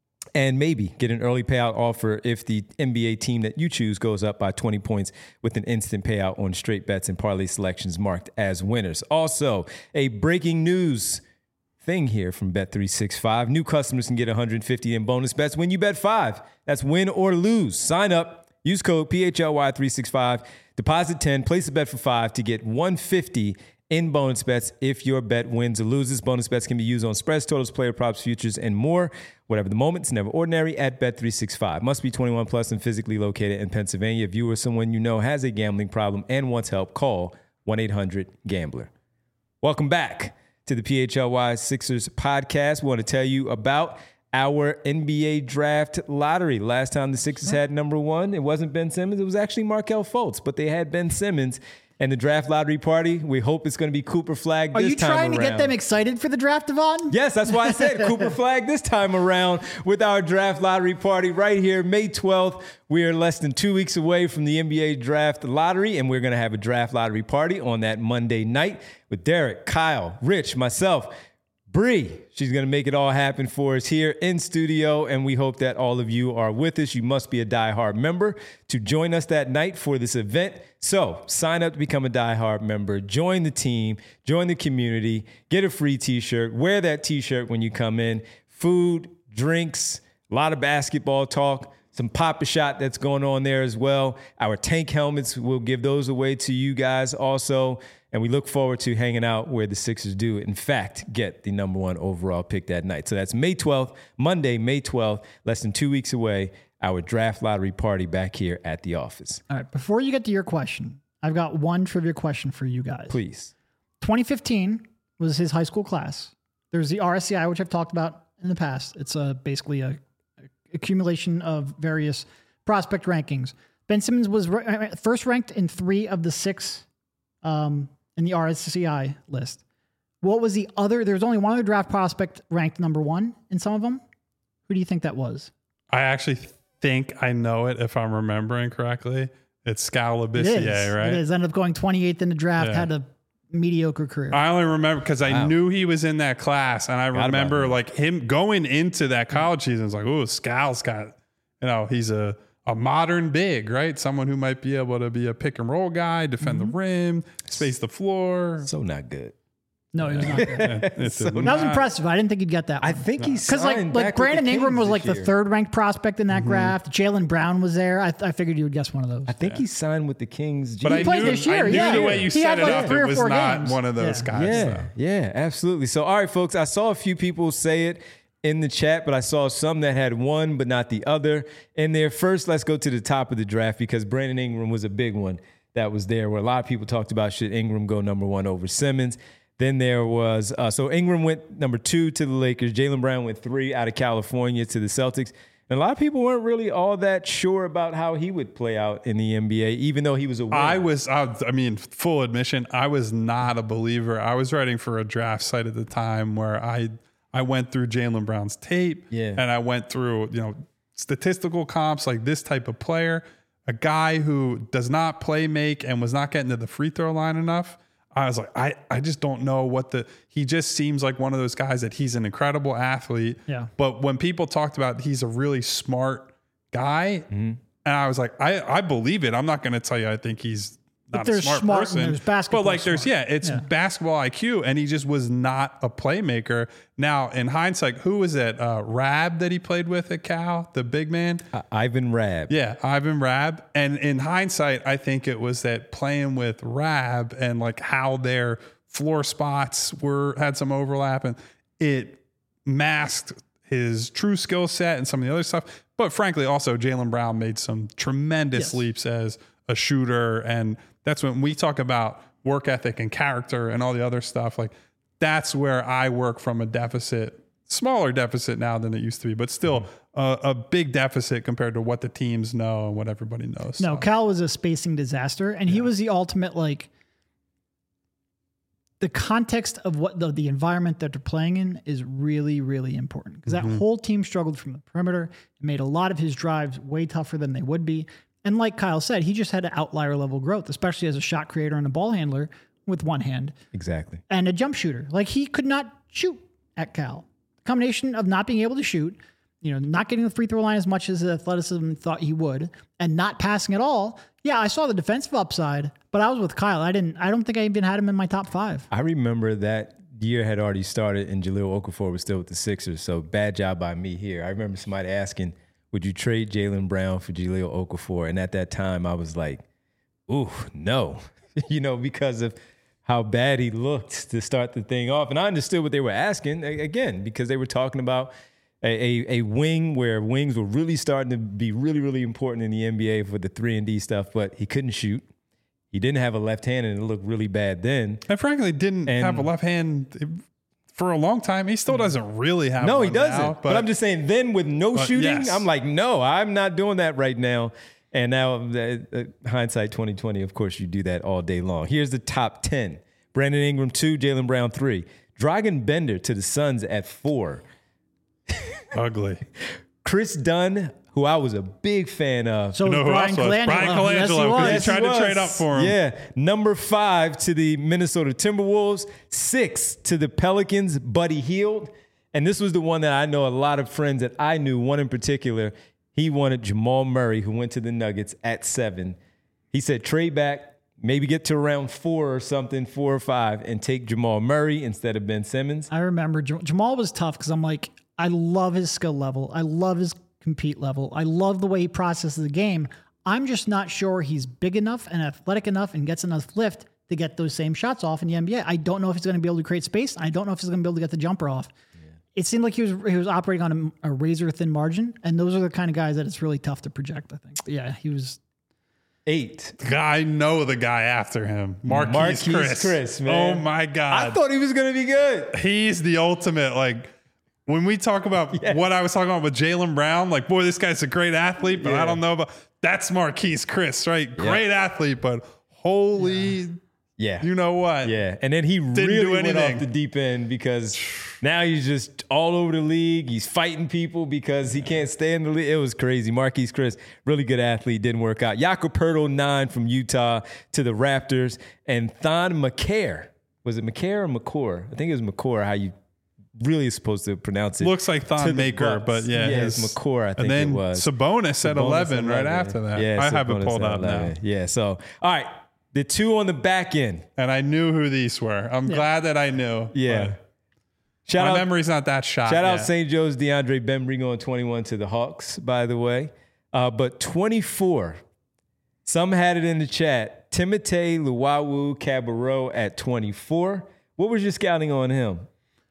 and maybe get an early payout offer if the NBA team that you choose goes up by 20 points with an instant payout on straight bets and parlay selections marked as winners. Also, a breaking news thing here from Bet365. New customers can get $150 in bonus bets when you bet 5. That's win or lose. Sign up, use code PHLY365, deposit 10, place a bet for 5 to get $150 in bonus bets if your bet wins or loses. Bonus bets can be used on spreads, totals, player props, futures, and more. Whatever the moment, it's never ordinary at Bet365. Must be 21 plus and physically located in Pennsylvania. If you or someone you know has a gambling problem and wants help, call 1-800-GAMBLER. Welcome back to the PHLY Sixers podcast. We want to tell you about our NBA draft lottery. Last time the Sixers had number 1, it wasn't Ben Simmons. It was actually Markelle Fultz, but they had Ben Simmons. And the draft lottery party, we hope it's going to be Cooper Flag this time around. Are you trying to get them excited for the draft, Devon? Yes, that's why I said Cooper Flag this time around with our draft lottery party right here, May 12th. We are less than 2 weeks away from the NBA draft lottery, and we're going to have a draft lottery party on that Monday night with Derek, Kyle, Rich, myself, Bree. She's going to make it all happen for us here in studio, and we hope that all of you are with us. You must be a diehard member to join us that night for this event. So sign up to become a diehard member, join the team, join the community, get a free t-shirt, wear that t-shirt when you come in, food, drinks, a lot of basketball talk, some Pop-A-Shot that's going on there as well. Our tank helmets, we'll give those away to you guys also. And we look forward to hanging out where the Sixers do, in fact, get the number 1 overall pick that night. So that's May 12th, Monday, May 12th, less than 2 weeks away, our draft lottery party back here at the office. All right, before you get to your question, I've got one trivia question for you guys. Please. 2015 was his high school class. There's the RSCI, which I've talked about in the past. It's basically a accumulation of various prospect rankings. Ben Simmons was first ranked in 3 of the 6 in the RSCI list. What was the other? There's only one other draft prospect ranked number 1 in some of them. Who do you think that was? I actually think I know it if I'm remembering correctly. It's Skal Labissiere, right? It is. Ended up going 28th in the draft, had a mediocre career. I only remember because I knew he was in that class, and I remember like him going into that college season. It's like, oh, Skal's got, he's a a modern big, right? Someone who might be able to be a pick and roll guy, defend the rim, space the floor. So not good. No, he was not good. That was impressive. I didn't think he'd get that one. I think he's because like Brandon Ingram was like the third ranked prospect in that draft. Jaylen Brown was there. I figured you would guess one of those. I think he signed with the Kings. But he played this year. I knew Yeah, the way you set it like up, 3 it or was 4 not games. one of those guys. Yeah, though. yeah, absolutely. So, all right, folks, I saw a few people say it in the chat, but I saw some that had one but not the other in there. First, let's go to the top of the draft because Brandon Ingram was a big one that was there where a lot of people talked about should Ingram go number 1 over Simmons. Then there was, so Ingram went number 2 to the Lakers. Jaylen Brown went 3 out of California to the Celtics. And a lot of people weren't really all that sure about how he would play out in the NBA, even though he was a winner. I mean, full admission, I was not a believer. I was writing for a draft site at the time where I went through Jaylen Brown's tape and I went through, statistical comps, like this type of player, a guy who does not play make and was not getting to the free throw line enough. I was like, I just don't know he just seems like one of those guys that he's an incredible athlete. Yeah. But when people talked about he's a really smart guy, and I was like, I believe it. I'm not going to tell you I think he's not a smart person. There's basketball but like it's basketball IQ, and he just was not a playmaker. Now, in hindsight, who was it? Rab that he played with at Cal, the big man? Ivan Rab. Yeah, Ivan Rab. And in hindsight, I think it was that playing with Rab and like how their floor spots had some overlap, and it masked his true skill set and some of the other stuff. But frankly, also Jaylen Brown made some tremendous leaps as a shooter, and that's when we talk about work ethic and character and all the other stuff. Like that's where I work from a deficit, smaller deficit now than it used to be, but still a big deficit compared to what the teams know and what everybody knows. No, Cal was a spacing disaster, and he was the ultimate, like, the context of what the environment that they're playing in is really, really important because that whole team struggled from the perimeter. It made a lot of his drives way tougher than they would be. And like Kyle said, he just had an outlier level growth, especially as a shot creator and a ball handler with one hand. Exactly. And a jump shooter. Like he could not shoot at Cal. The combination of not being able to shoot, not getting the free throw line as much as athleticism thought he would, and not passing at all. Yeah, I saw the defensive upside, but I was with Kyle. I don't think I even had him in my top 5. I remember that year had already started and Jahlil Okafor was still with the Sixers. So bad job by me here. I remember somebody asking, would you trade Jaylen Brown for Jahlil Okafor? And at that time, I was like, ooh, no, because of how bad he looked to start the thing off. And I understood what they were asking, again, because they were talking about a wing where wings were really starting to be really, really important in the NBA for the 3-and-D stuff, but he couldn't shoot. He didn't have a left hand, and it looked really bad then. And frankly, didn't have a left hand for a long time. He still doesn't really have No, one he doesn't. now, but I'm just saying then with no shooting, yes. I'm like, no, I'm not doing that right now. And now, hindsight 2020, of course, you do that all day long. Here's the top 10. Brandon Ingram 2, Jaylen Brown 3. Dragan Bender to the Suns at 4. Ugly. Chris Dunn, who I was a big fan of. So Brian Colangelo. Brian Colangelo, because he tried to trade up for him. Yeah. Number 5 to the Minnesota Timberwolves. 6 to the Pelicans, Buddy Hield. And this was the one that I know a lot of friends that I knew, one in particular, he wanted Jamal Murray, who went to the Nuggets at 7. He said, trade back, maybe get to around 4 or something, 4 or 5, and take Jamal Murray instead of Ben Simmons. I remember Jamal was tough because I'm like, I love his skill level. I love his compete level. I love the way he processes the game. I'm just not sure he's big enough and athletic enough and gets enough lift to get those same shots off in the NBA. I don't know if he's going to be able to create space. I don't know if he's going to be able to get the jumper off. Yeah. It seemed like he was operating on a razor thin margin, and those are the kind of guys that it's really tough to project, I think. But yeah, he was 8. I know the guy after him. Marquise Chris, man. Oh my God. I thought he was going to be good. He's the ultimate, when we talk about what I was talking about with Jaylen Brown, boy, this guy's a great athlete, but I don't know about that's Marquise Chris, right? Great athlete, but holy, you know what? Yeah, and then he really went off the deep end because now he's just all over the league. He's fighting people because he can't stay in the league. It was crazy. Marquise Chris, really good athlete, didn't work out. Jakob Poeltl, 9 from Utah to the Raptors, and Thon McCare. Was it McCare or McCore? I think it was McCore, how you really supposed to pronounce it. Looks like to Thon the Maker, Bucks. but yeah. It's McCord, I think and then it was. Sabonis at 11 right after that. Yeah, I have it Sabonis pulled at up 11. now. Yeah, so, all right. The two on the back end. And I knew who these were. I'm glad that I knew. Yeah. My memory's not that shot. Shout out St. Joe's DeAndre Bembry going 21 to the Hawks, by the way. But 24, some had it in the chat. Timothé Luwawu-Cabarrot at 24. What was your scouting on him?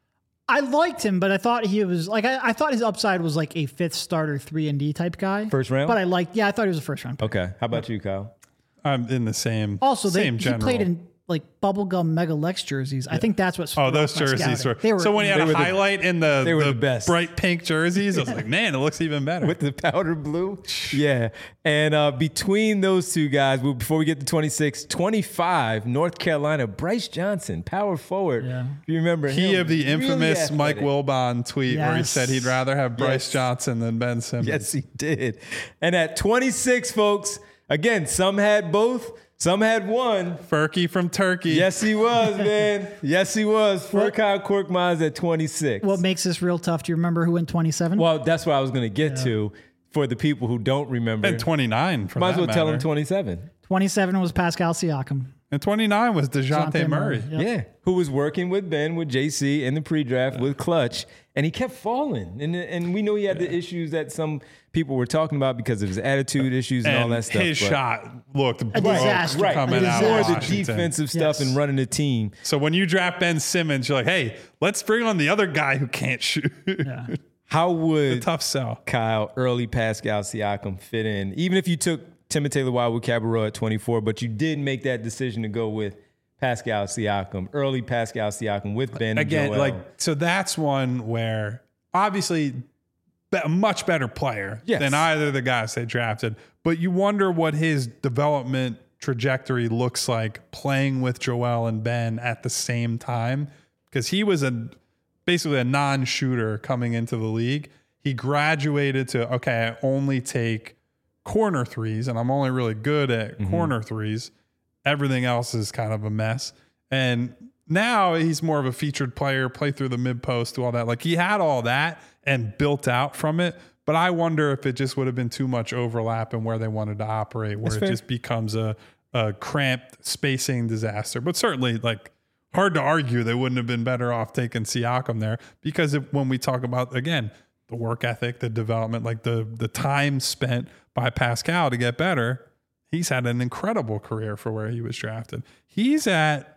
I liked him, but I thought he was like I thought his upside was like a fifth starter 3-and-D type guy. First round? But I thought he was a first round pick. Okay. How about you, Kyle? I'm in the same. Also, same he general. played in like bubblegum Mega Lex jerseys. I think that's what. Oh, those jerseys were. So when you had a highlight in the best. bright pink jerseys, I was like, man, it looks even better. With the powder blue? Yeah. And between those two guys, before we get to 26, 25, North Carolina, Bryce Johnson, power forward. Yeah. If you remember He him, of the infamous really Mike athletic. Wilbon tweet where he Yes. said he'd rather have Bryce Yes. Johnson than Ben Simmons. Yes, he did. And at 26, folks, again, some had both, some had one. Furky from Turkey. Yes, he was, man. Yes, he was. Furkan Korkmaz at 26. What makes this real tough? Do you remember who went 27? Well, that's what I was going to get to for the people who don't remember. And 29 for Might as that well tell matter. him 27. 27 was Pascal Siakam. And 29 was DeJounte Murray. Yep. Yeah, who was working with Ben, with JC in the pre-draft with Clutch, and he kept falling. And we know he had the issues that some people were talking about because of his attitude issues and all that stuff. His shot looked A disaster. Right, coming out more of the Washington. defensive stuff and running the team. So when you draft Ben Simmons, you're like, hey, let's bring on the other guy who can't shoot. Yeah. How would Tough sell. Kyle, early Pascal Siakam fit in? Even if you took Timothé Luwawu-Cabarrot at 24, but you did make that decision to go with Pascal Siakam, early Pascal Siakam with Ben Again, Joel. so that's one where obviously a much better player Yes. than either of the guys they drafted, but you wonder what his development trajectory looks like playing with Joel and Ben at the same time, because he was basically a non-shooter coming into the league. He graduated to, okay, I only take corner threes, and I'm only really good at corner threes. Everything else is kind of a mess. And now he's more of a featured player, play through the mid post, do all that. Like he had all that and built out from it. But I wonder if it just would have been too much overlap in where they wanted to operate, where it just becomes a cramped spacing disaster. But certainly, like, hard to argue they wouldn't have been better off taking Siakam there, because when we talk about, again, the work ethic, the development, like the time spent by Pascal to get better, he's had an incredible career for where he was drafted. He's at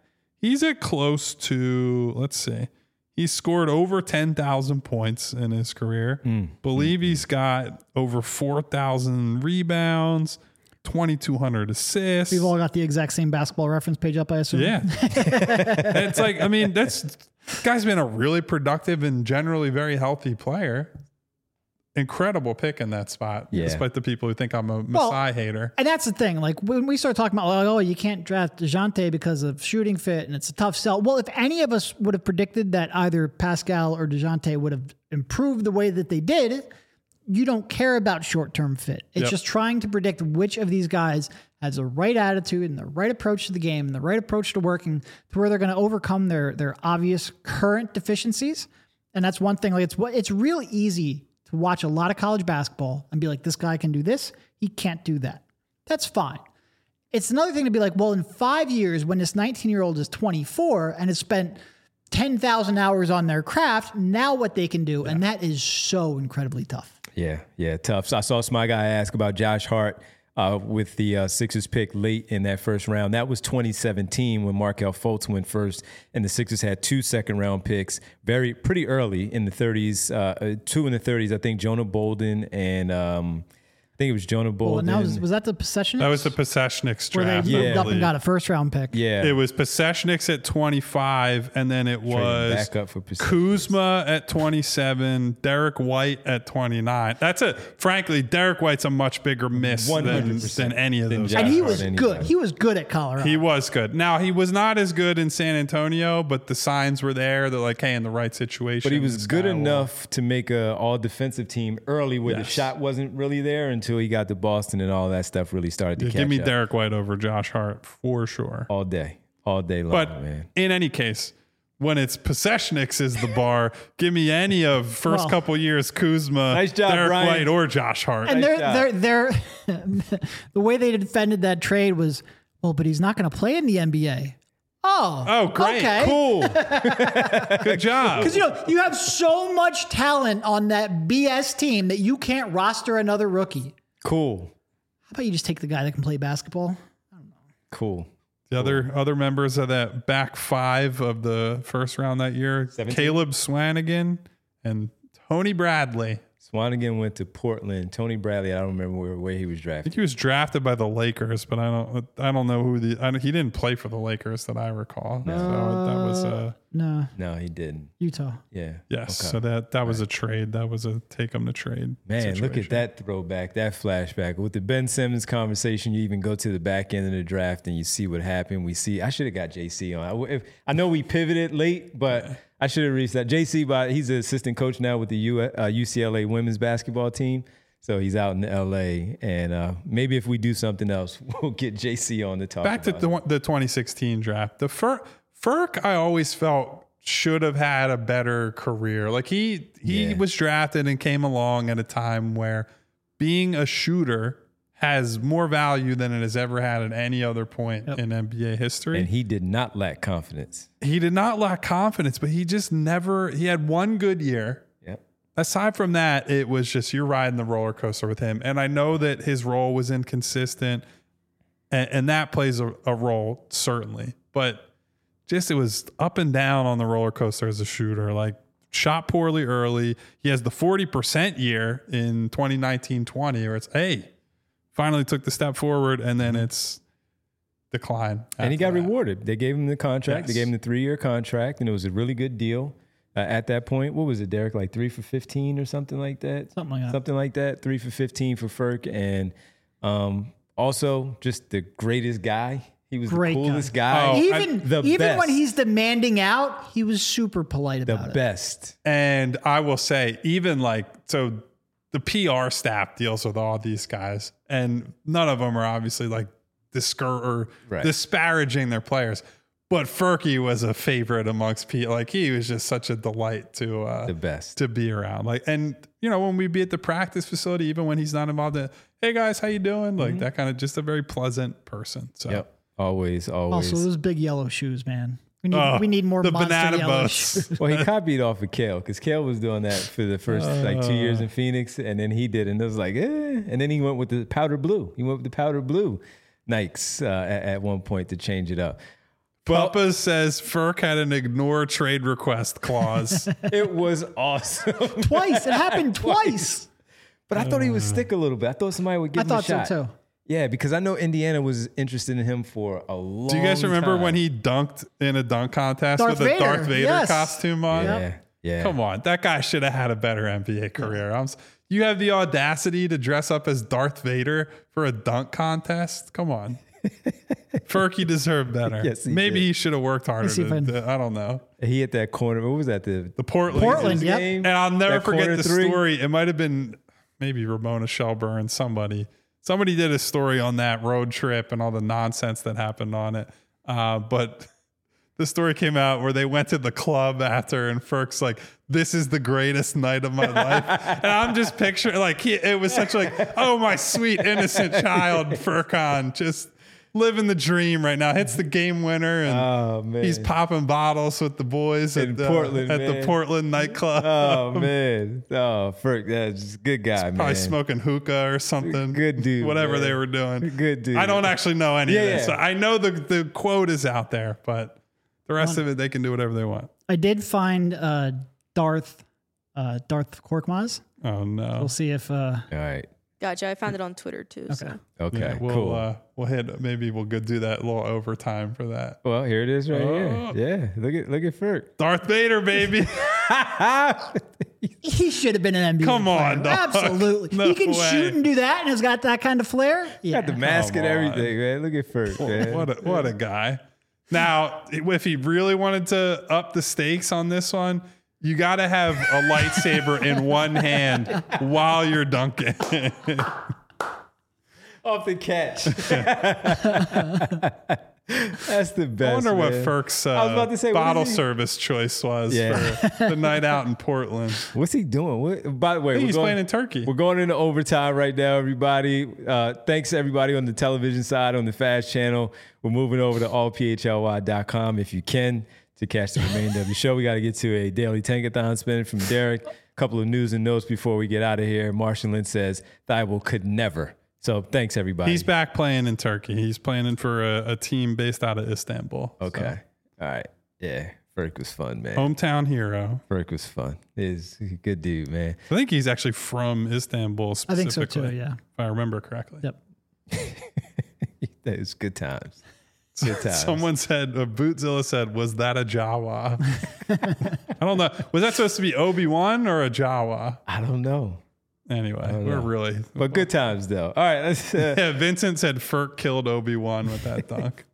close to, let's see, he's scored over 10,000 points in his career. Believe he's got over 4,000 rebounds, 2,200 assists. We've all got the exact same basketball reference page up, I assume. Yeah. It's like, I mean, this guy's been a really productive and generally very healthy player. Incredible pick in that spot, despite the people who think I'm a Masai hater. And that's the thing. Like when we start talking about, like, oh, you can't draft DeJounte because of shooting fit and it's a tough sell. Well, if any of us would have predicted that either Pascal or DeJounte would have improved the way that they did, you don't care about short-term fit. It's just trying to predict which of these guys has the right attitude and the right approach to the game and the right approach to working to where they're going to overcome their obvious current deficiencies. And that's one thing. Like it's real easy to watch a lot of college basketball and be like, this guy can do this, he can't do that. That's fine. It's another thing to be like, well, in 5 years, when this 19-year-old is 24 and has spent 10,000 hours on their craft, now what they can do. And that is so incredibly tough. Yeah, tough. So I saw my guy ask about Josh Hart with the Sixers pick late in that first round. That was 2017 when Markelle Fultz went first, and the Sixers had 2 second-round picks pretty early in the 30s, 2 in the 30s. I think Jonah Bolden and I think it was Jonah Bolden. Well, and was that the Possessions? That was the Possessions where draft. they moved up and got a first-round pick. Yeah. It was Possessions at 25, and then it was back up for Possessions. Kuzma at 27, Derek White at 29. Frankly, Derek White's a much bigger miss than 100% any of those. And guys. he was good. He was good at Colorado. He was good. Now, he was not as good in San Antonio, but the signs were there. They're like, hey, in the right situation. But he was this good guy will- enough to make a all-defensive team early where the shot wasn't really there until he got to Boston and all that stuff really started to catch Give me up. Derek White over Josh Hart for sure. All day long, But man. in any case, when it's Possessionix is the bar, give me any of first couple years Kuzma, Nice job, Derek Brian. White, or Josh Hart. And Nice they're the way they defended that trade was, well, but he's not going to play in the NBA. Oh, great. Okay. Cool. Good job. Because you have so much talent on that BS team that you can't roster another rookie. Cool. How about you just take the guy that can play basketball? Cool. The other members of that back five of the first round that year, 17? Caleb Swanigan and Tony Bradley. Swanigan went to Portland. Tony Bradley, I don't remember where he was I drafted. think he was drafted by the Lakers, but I don't know who he didn't play for the Lakers that I recall. So that was No, he didn't. Utah. Yeah. yes. Okay. So that was a trade. That was a take him to trade. Man, look at situation. that throwback, that flashback. With the Ben Simmons conversation, you even go to the back end of the draft and you see what happened. I should have got JC on. I know we pivoted late, but I should have reached that. JC, he's an assistant coach now with the UCLA women's basketball team. So he's out in LA. And maybe if we do something else, we'll get JC on to talk Back to about the 2016 draft. The Ferk, I always felt should have had a better career. Like he was drafted and came along at a time where being a shooter has more value than it has ever had at any other point in NBA history. And he did not lack confidence. He did not lack confidence, but he had one good year. Yep. Aside from that, it was just you're riding the roller coaster with him. And I know that his role was inconsistent, and that plays a role, certainly. But just it was up and down on the roller coaster as a shooter. Like, shot poorly early. He has the 40% year in 2019-20 where it's, hey, finally took the step forward, and then it's decline. And he got after that. rewarded. They gave him the contract. They Yes. gave him the 3-year contract, and it was a really good deal at that point. What was it, Derek? Like 3 for 15 or something like that? Something like that. Something like that. 3 for 15 for Ferk. And also just the greatest guy. He was Great the coolest guy. guy. Oh, Even the best. when he's demanding out, he was super polite The about it. best. And I will say, even so the PR staff deals with all these guys, and none of them are obviously like disparaging their players. But Ferkie was a favorite amongst people. Like, he was just such a delight to The best. to be around. Like, and when we'd be at the practice facility, even when he's not involved in, hey guys, how you doing? Like that kind of just a very pleasant person. So Yep. Always. Also, those big yellow shoes, man. We need more the monster banana yellow boats. shoes. Well, he copied off of Kale because Kale was doing that for the first 2 years in Phoenix, and then he did, and it was like, and then he went with the powder blue. He went with the powder blue Nikes at one point to change it up. Papa says Ferk had an ignore trade request clause. It was awesome. Twice. It happened twice. But I thought he would stick a little bit. I thought somebody would give I him a thought so shot. too. Yeah, because I know Indiana was interested in him for a long time. Do you guys remember when he dunked in a dunk contest Darth with a Vader, Darth Vader yes. costume on? Yeah. Come on, that guy should have had a better NBA career. You have the audacity to dress up as Darth Vader for a dunk contest? Come on. Ferkie deserved better. Yes, he Maybe did. he should have worked harder. see if I don't know. He hit that corner. What was that? The Portland yep. game? And I'll never That forget corner the three? story. It might have been maybe Ramona Shelburne, somebody did a story on that road trip and all the nonsense that happened on it. But the story came out where they went to the club after, and Ferk's like, "This is the greatest night of my life." And I'm just picturing it was such oh, my sweet innocent child, Furkan, just living the dream right now. Hits the game winner, and Oh, man. he's popping bottles with the boys In at Portland, the man. Portland nightclub. Oh, man. Oh, Ferk, that's just a good guy, man. Probably smoking hookah or something. Good dude, Whatever man. they were doing. Good dude. I don't actually know any of Yeah, this. yeah. I know the quote is out there, but the rest of it, they can do whatever they want. I did find Darth Korkmaz. Oh, no. We'll see if All right. Gotcha. I found it on Twitter too. So. Okay, Yeah, cool. we'll hit, maybe we'll go do that little overtime for that. Well, here it is right Oh. here. Yeah, look at Ferk. Darth Vader, baby. he should have been an NBA Come on, player. dog. Absolutely. No he can way. shoot and do that and has got that kind of flair. Yeah. Got the mask and Come on. everything, man. Look at Ferk, man. What a guy. Now, if he really wanted to up the stakes on this one, you got to have a lightsaber in one hand while you're dunking. off the catch. That's the best. I wonder what man. Ferk's I was about to say, what bottle is he- service choice was Yeah. for the night out in Portland. What's he doing? By the way, He's playing in Turkey. We're going into overtime right now, everybody. Thanks to everybody on the television side, on the Fast Channel. We're moving over to allphly.com if you can to catch the remainder of the show. We got to get to a daily tankathon spin from Derek. A couple of news and notes before we get out of here. Marshall Lynch says Thibault could never. So thanks, everybody. He's back playing in Turkey. He's playing for a team based out of Istanbul. Okay. All right. Yeah. Ferk was fun, man. Hometown hero. Ferk was fun. He's a good dude, man. I think he's actually from Istanbul I specifically. think so too. Yeah. If I remember correctly. Yep. That was good times. Good times. Someone said, Bootzilla said, was that a Jawa? I don't know. Was that supposed to be Obi-Wan or a Jawa? I don't know. Anyway, we're really. But good times, though. All right. Let's, Yeah, Vincent said Ferk killed Obi-Wan with that dunk.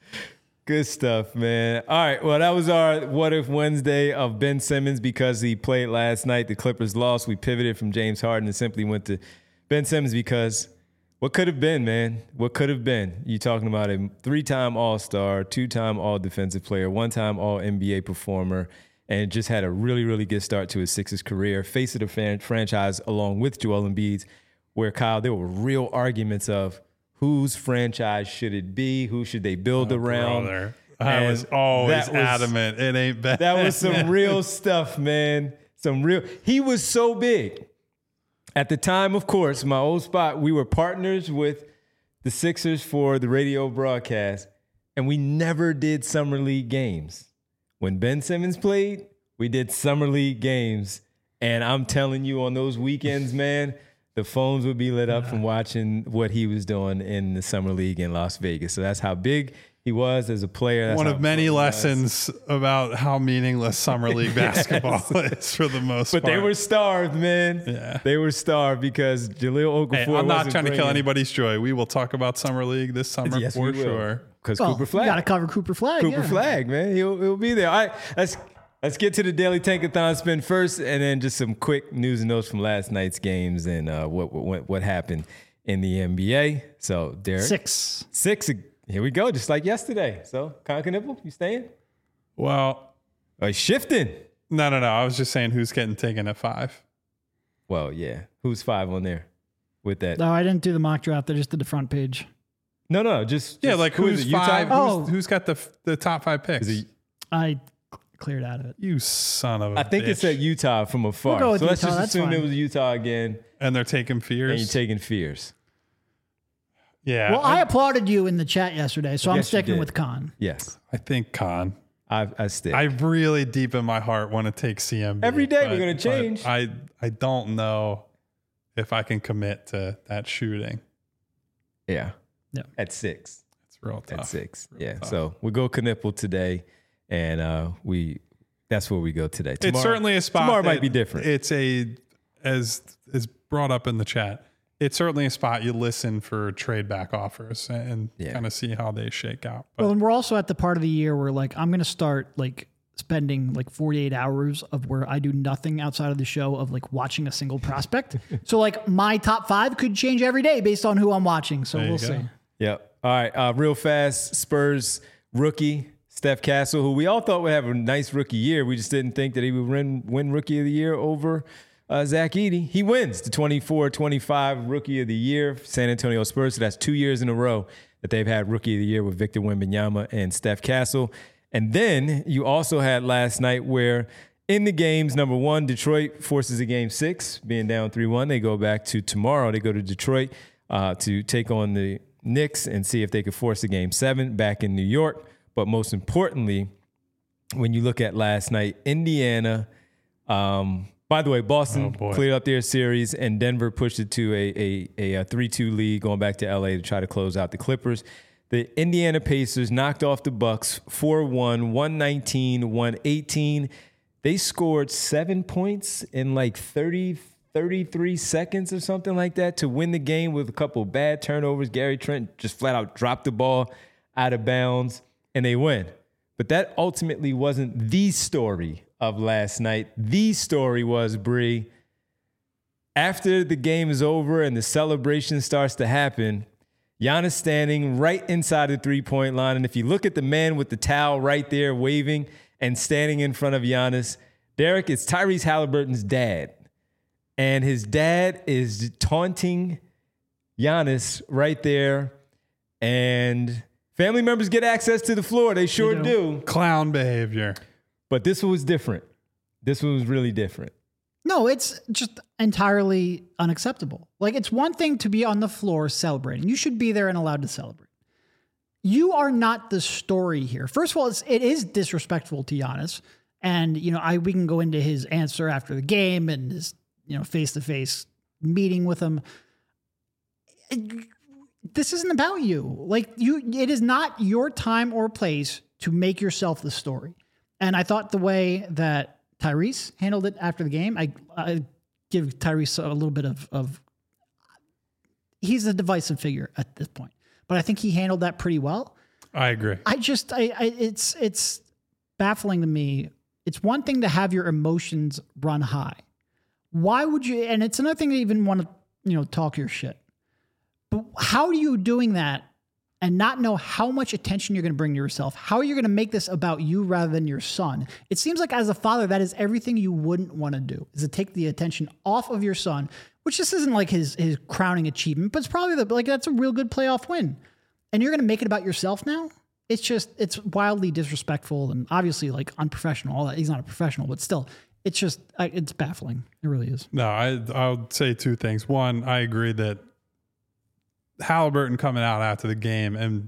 good stuff, man. All right. Well, that was our What If Wednesday of Ben Simmons because he played last night. The Clippers lost. We pivoted from James Harden and simply went to Ben Simmons because what could have been, man? What could have been? You talking about a 3-time All-Star, 2-time All-Defensive Player, 1-time All-NBA performer, and just had a really, really good start to his Sixers career. Face of the franchise along with Joel Embiid, where, Kyle, there were real arguments of whose franchise should it be? Who should they build around? Brother. I was always adamant. It ain't bad. That was some real stuff, man. He was so big. At the time, of course, my old spot, we were partners with the Sixers for the radio broadcast, and we never did Summer League games. When Ben Simmons played, we did Summer League games. And I'm telling you, on those weekends, man, the phones would be lit up from watching what he was doing in the Summer League in Las Vegas. So that's how big he was as a player. That's one how of many fun he was. lessons about how meaningless Summer League basketball is for the most part. But they were starved, man. Yeah. They were starved because Jaleel Okafor Hey, I'm not wasn't trying to kill bringing- anybody's joy. We will talk about Summer League this summer Yes, for we will. sure. Because Well, Cooper you Flag. got to cover Cooper Flag. Cooper yeah. Flag, man. He'll be there. All right, let's get to the Daily Tankathon spin first, and then just some quick news and notes from last night's games and what happened in the NBA. So, Derek. 6. 6. Here we go, just like yesterday. So, Conker-Nipple, you staying? Well, Or he's shifting? no. I was just saying who's getting taken at 5. Well, yeah. Who's 5 on there with that? No, I didn't do the mock draft. I just did the front page. No, just Yeah, like who is who's it, Utah? 5? Oh. Who's got the top 5 picks? Is it- I cleared out of it. You son of a I think it bitch. said Utah from afar. We'll go with So let's Utah, just that's assume it fine. was Utah again, And they're taking fears. and you're taking Fears. Yeah. Well, I applauded you in the chat yesterday, so I'm Yes, you sticking did. with Khan. Yes, I think Con. I stick. I really deep in my heart want to take CMB. Every day we're but- gonna change. but I don't know if I can commit to that shooting. yeah. Yeah. At 6. It's real tough. At 6. Real Yeah. tough. So we go Knipple today, and that's where we go today. It's Tomorrow- certainly a spot. Tomorrow might that be different. It's as brought up in the chat. It's certainly a spot you listen for trade back offers and Yeah. kind of see how they shake out. But Well, and we're also at the part of the year where like I'm going to start like spending like 48 hours of where I do nothing outside of the show of like watching a single prospect. So like my top 5 could change every day based on who I'm watching. So There you we'll go. see. Yep. All right. Real fast, Spurs rookie Steph Castle, who we all thought would have a nice rookie year. We just didn't think that he would win Rookie of the Year over Zach Edey. He wins the 24-25 Rookie of the Year for San Antonio Spurs. So that's 2 years in a row that they've had Rookie of the Year with Victor Wembanyama and Steph Castle. And then you also had last night where in the games, number 1, Detroit forces a game 6, being down 3-1. They go back to tomorrow. They go to Detroit to take on the Knicks and see if they could force a game 7 back in New York. But most importantly, when you look at last night, Indiana, by the way, Boston cleared up their series and Denver pushed it to a 3-2 lead going back to LA to try to close out the Clippers. The Indiana Pacers knocked off the Bucks 4-1, 119-118. They scored 7 points in like 33 seconds or something like that to win the game with a couple of bad turnovers. Gary Trent just flat out dropped the ball out of bounds and they win. But that ultimately wasn't the story of last night. The story was, Bree, after the game is over and the celebration starts to happen, Giannis standing right inside the three-point line. And if you look at the man with the towel right there waving and standing in front of Giannis, Derek, it's Tyrese Halliburton's dad. And his dad is taunting Giannis right there. And family members get access to the floor. They sure do. Clown behavior. But this one was different. This one was really different. No, it's just entirely unacceptable. Like, it's one thing to be on the floor celebrating. You should be there and allowed to celebrate. You are not the story here. First of all, it is disrespectful to Giannis. And, we can go into his answer after the game and his, face-to-face meeting with him. This isn't about you. Like, it is not your time or place to make yourself the story. And I thought the way that Tyrese handled it after the game, I give Tyrese a little bit of he's a divisive figure at this point, but I think he handled that pretty well. I agree. It's baffling to me. It's one thing to have your emotions run high. Why would you? And it's another thing to even want to, talk your shit. But how are you doing that and not know how much attention you're going to bring to yourself? How are you going to make this about you rather than your son? It seems like as a father, that is everything you wouldn't want to do, is to take the attention off of your son, which just isn't like his crowning achievement, but it's probably that's a real good playoff win. And you're going to make it about yourself now? It's wildly disrespectful and obviously like unprofessional. All that. He's not a professional, but still, it's baffling. It really is. No, I'll say two things. One, I agree that Halliburton coming out after the game and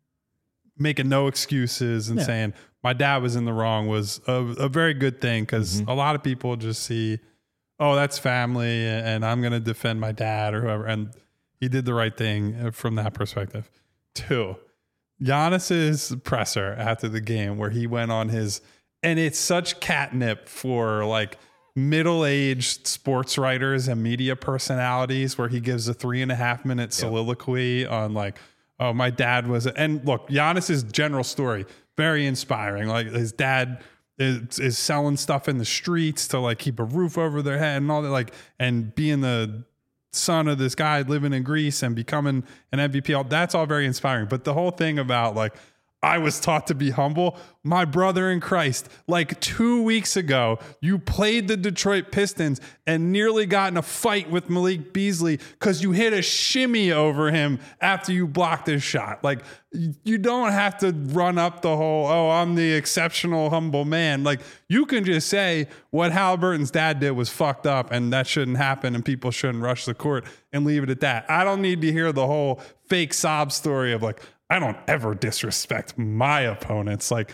making no excuses and saying my dad was in the wrong was a very good thing, because a lot of people just see, oh, that's family and I'm going to defend my dad or whoever. And he did the right thing from that perspective. Two, Giannis's presser after the game where he went on his, and it's such catnip for like middle-aged sports writers and media personalities, where he gives a 3.5 minute soliloquy on like, oh, my dad was, and look, Giannis's general story, very inspiring. Like his dad is selling stuff in the streets to like keep a roof over their head and all that, like, and being the son of this guy living in Greece and becoming an MVP, that's all very inspiring. But the whole thing about like, I was taught to be humble. My brother in Christ, like 2 weeks ago, you played the Detroit Pistons and nearly got in a fight with Malik Beasley because you hit a shimmy over him after you blocked his shot. Like, you don't have to run up the whole, oh, I'm the exceptional, humble man. Like, you can just say what Halliburton's dad did was fucked up and that shouldn't happen and people shouldn't rush the court and leave it at that. I don't need to hear the whole fake sob story of like, I don't ever disrespect my opponents. Like,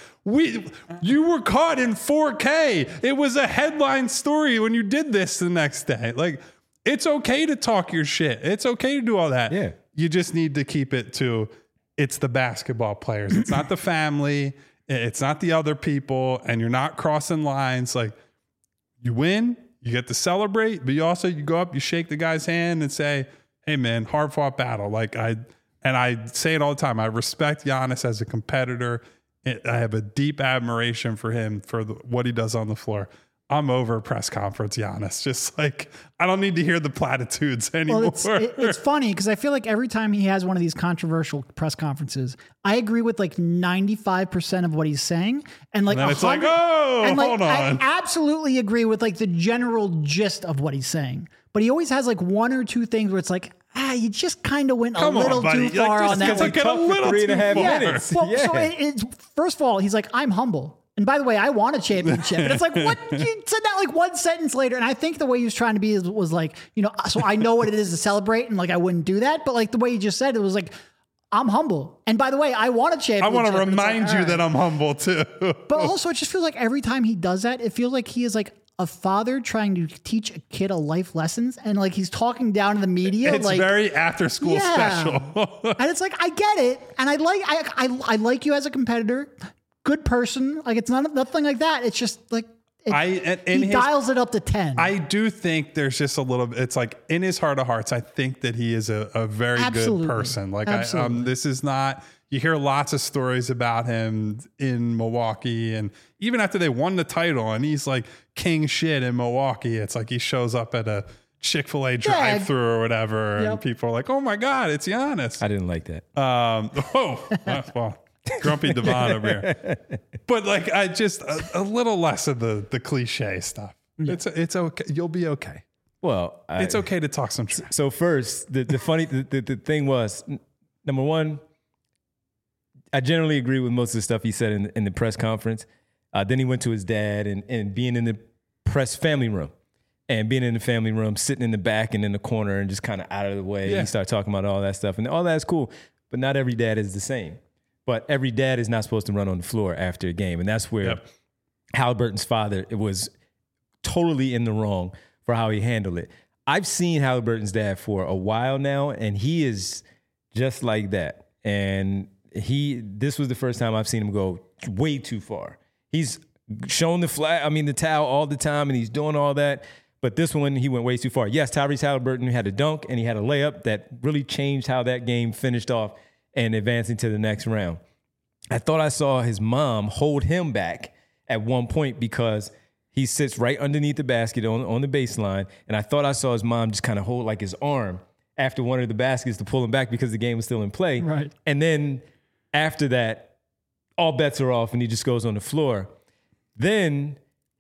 you were caught in 4K. It was a headline story when you did this the next day. Like, it's okay to talk your shit. It's okay to do all that. Yeah. You just need to keep it to, it's the basketball players. It's not the family. It's not the other people. And you're not crossing lines. Like, you win, you get to celebrate, but you go up, you shake the guy's hand and say, hey man, hard fought battle. Like and I say it all the time. I respect Giannis as a competitor. I have a deep admiration for him for what he does on the floor. I'm over press conference Giannis. Just like, I don't need to hear the platitudes anymore. Well, it's funny because I feel like every time he has one of these controversial press conferences, I agree with like 95% of what he's saying. And like, it's like, oh, and like, hold on. I absolutely agree with like the general gist of what he's saying. But he always has like one or two things where it's like, you just kind of went a little too far on that. It's like a little 3.5 minutes. Well, so it's first of all, he's like, I'm humble. And by the way, I want a championship. And it's like, what? You said that like one sentence later. And I think the way he was trying to be was like, so I know what it is to celebrate. And like, I wouldn't do that. But like the way he just said it was like, I'm humble. And by the way, I want a championship. I want to remind you that I'm humble too. But also it just feels like every time he does that, it feels like he is like a father trying to teach a kid a life lessons, and like he's talking down to the media. It's like, very after school special. And it's like, I get it. And I like you as a competitor, good person. Like, it's nothing like that. It's just like, he dials it up to 10. I do think there's just a little bit, it's like in his heart of hearts, I think that he is a very good person. Like, this is not, you hear lots of stories about him in Milwaukee, and even after they won the title and he's like king shit in Milwaukee, it's like he shows up at Chick-fil-A drive-through or whatever, and Yep. people are like, "Oh my God, it's Giannis." I didn't like that. Well, grumpy Devon over here. But like, I just a little less of the cliche stuff. It's okay. You'll be okay. Well, It's okay to talk some truth. So first, the thing was, number one, I generally agree with most of the stuff he said in the press conference. Then he went to his dad and being in the press family room. And being in the family room, sitting in the back and in the corner and just kind of out of the way. Yeah. He started talking about all that stuff. And all that's cool. But not every dad is the same. But every dad is not supposed to run on the floor after a game. And that's where Halliburton's father was totally in the wrong for how he handled it. I've seen Halliburton's dad for a while now, and he is just like that. And this was the first time I've seen him go way too far. He's shown the towel all the time, and he's doing all that. But this one, he went way too far. Yes, Tyrese Halliburton had a dunk, and he had a layup that really changed how that game finished off and advancing to the next round. I thought I saw his mom hold him back at one point because he sits right underneath the basket on the baseline, and I thought I saw his mom just kind of hold like his arm after one of the baskets to pull him back because the game was still in play. Right. And then after that, all bets are off, and he just goes on the floor. Then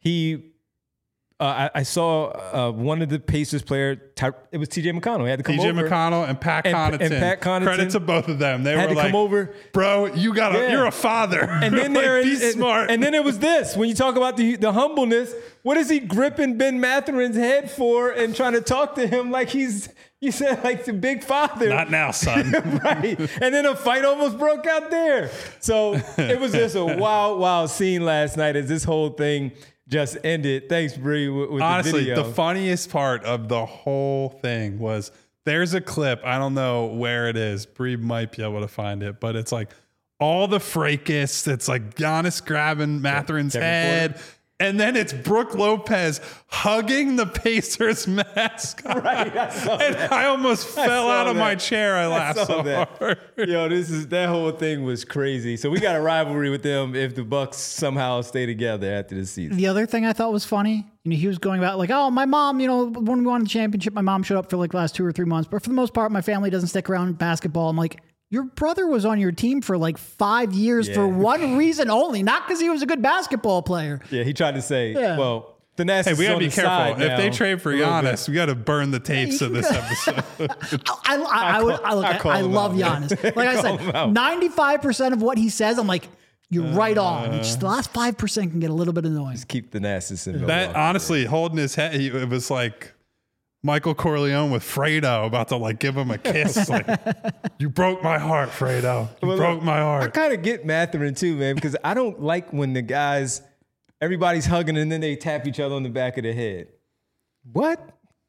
I saw one of the Pacers player. It was T.J. McConnell. He had to come over. T.J. McConnell and Pat Connaughton. And Pat Connaughton. Credit to both of them. They had were to like, come over. "Bro, you're a father." And then like, be smart. And then it was this. When you talk about the humbleness, what is he gripping Ben Matherin's head for and trying to talk to him like you said, like the big father? Not now, son. Right. And then a fight almost broke out there. So it was just a wild scene last night as this whole thing just ended. Thanks, Bree, with Honestly, the video. the funniest part of the whole thing was there's a clip. I don't know where it is. Bree might be able to find it, but it's like all the fracas. It's like Giannis grabbing Matherin's head. And then it's Brooke Lopez hugging the Pacers mascot. Right, I almost fell out of my chair. I laughed so hard. Yo, that whole thing was crazy. So we got a rivalry with them if the Bucks somehow stay together after the season. The other thing I thought was funny, he was going about like, oh, my mom, when we won the championship, my mom showed up for like the last 2 or 3 months. But for the most part, my family doesn't stick around in basketball. I'm like, your brother was on your team for like 5 years for one reason only, not because he was a good basketball player. Yeah, he tried to say, well, the Thanasis we gotta be on the careful. side If now, they trade for Giannis, we got to burn the tapes of this episode. I love Giannis. Like I said, 95% of what he says, I'm like, you're right on. It's just the last 5% can get a little bit annoying. Just keep Thanasis in That honestly, holding his head, it was like Michael Corleone with Fredo about to like give him a kiss. Like, you broke my heart, Fredo. You broke my I heart. kind of get Matherin too, man, because I don't like when the guys, everybody's hugging and then they tap each other on the back of the head. What?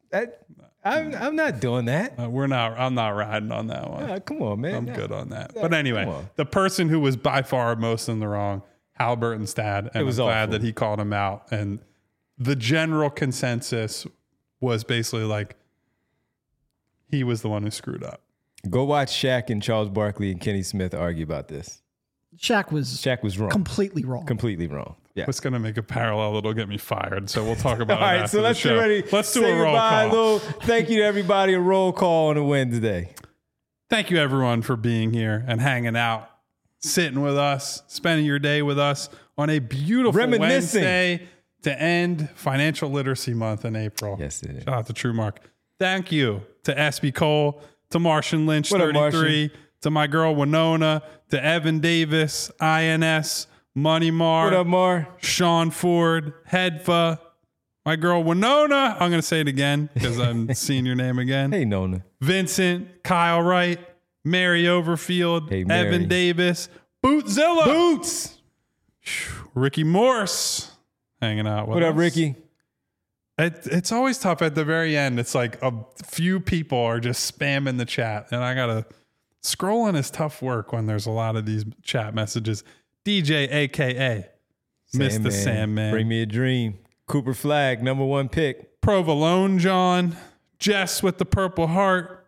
I'm not doing that. I'm not riding on that one. Come on, man. I'm good on that. But anyway, the person who was by far most in the wrong, Halliburton's dad, and I'm glad that he called him out. And the general consensus was basically like he was the one who screwed up. Go watch Shaq and Charles Barkley and Kenny Smith argue about this. Shaq was wrong. Completely wrong. Completely wrong. Yeah. What's going to make a parallel that'll get me fired? So we'll talk about it. All right, after so let's the show. get ready. Let's do a roll call. Thank you to everybody. A roll call on a Wednesday. Thank you, everyone, for being here and hanging out, sitting with us, spending your day with us on a beautiful Wednesday to end Financial Literacy Month in April. Yes, it is. Shout out to TrueMark. Thank you to SB Cole, to Martian Lynch, What up, 33, Martian? to my girl Winona, to Evan Davis, INS, Money Mar. What up, Mar? Sean Ford, Hedfa, my girl Winona. I'm going to say it again because I'm seeing your name again. Hey, Nona. Vincent, Kyle Wright, Mary Overfield, Hey, Mary. Evan Davis, Bootzilla, Boots. Ricky Morse hanging out with What up, us. Ricky? It's always tough at the very end. It's like a few people are just spamming the chat, and I got to scrolling is tough work when there's a lot of these chat messages. DJ, a.k.a. Mr. Sandman. Bring me a dream. Cooper Flag, #1 pick. Provolone John. Jess with the Purple Heart.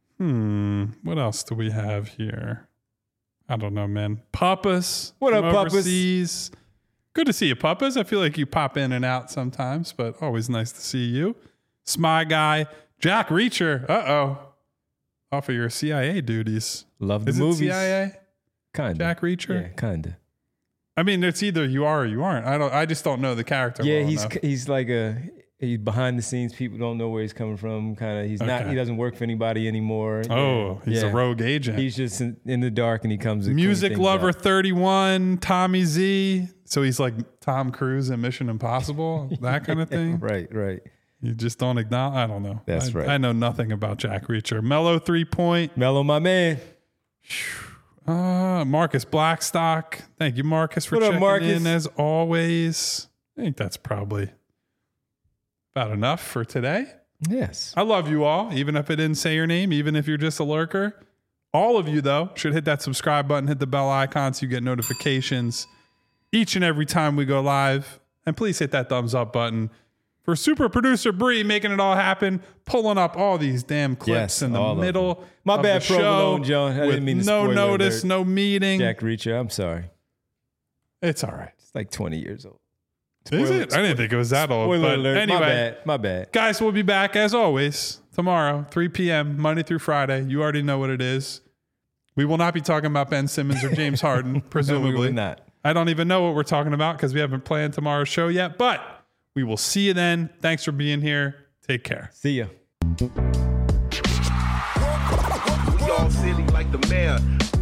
What else do we have here? I don't know, man. Papas. What up, from Papas? overseas. Good to see you, Papas. I feel like you pop in and out sometimes, but always nice to see you. Smy Guy, Jack Reacher. Off of your CIA duties. Love the Is movies. it CIA? Kinda. Jack Reacher? Yeah, kinda. I mean, it's either you are or you aren't. I just don't know the character. Yeah, well he's enough. he's behind the scenes. People don't know where he's coming from. Kind of, he's not. Okay. He doesn't work for anybody anymore. Oh, he's a rogue agent. He's just in the dark, and he comes. to clean Music things Lover up. 31, Tommy Z. So he's like Tom Cruise in Mission Impossible, that kind of thing. Right. You just don't acknowledge. I don't know. That's right. I know nothing about Jack Reacher. Mellow 3 Point. Mellow, my man. Marcus Blackstock. Thank you, Marcus, for What up, checking Marcus? in as always. I think that's probably about enough for today. Yes. I love you all, even if I didn't say your name, even if you're just a lurker. All of you, though, should hit that subscribe button, hit the bell icon so you get notifications each and every time we go live. And please hit that thumbs up button for super producer Bree making it all happen, pulling up all these damn clips Yes, in the all of middle them. My of bad, the show Provolone Joan. I with didn't mean to no spoiler notice, alert. no meeting. Jack Reacher. I'm sorry. It's all right. It's like 20 years old. Is it? I didn't think it was that old. Spoiler But alert. anyway, My bad. guys, we'll be back as always tomorrow, 3 p.m., Monday through Friday. You already know what it is. We will not be talking about Ben Simmons or James Harden, presumably. No, we will not. I don't even know what we're talking about because we haven't planned tomorrow's show yet, but we will see you then. Thanks for being here. Take care. See ya. We all silly like the mayor.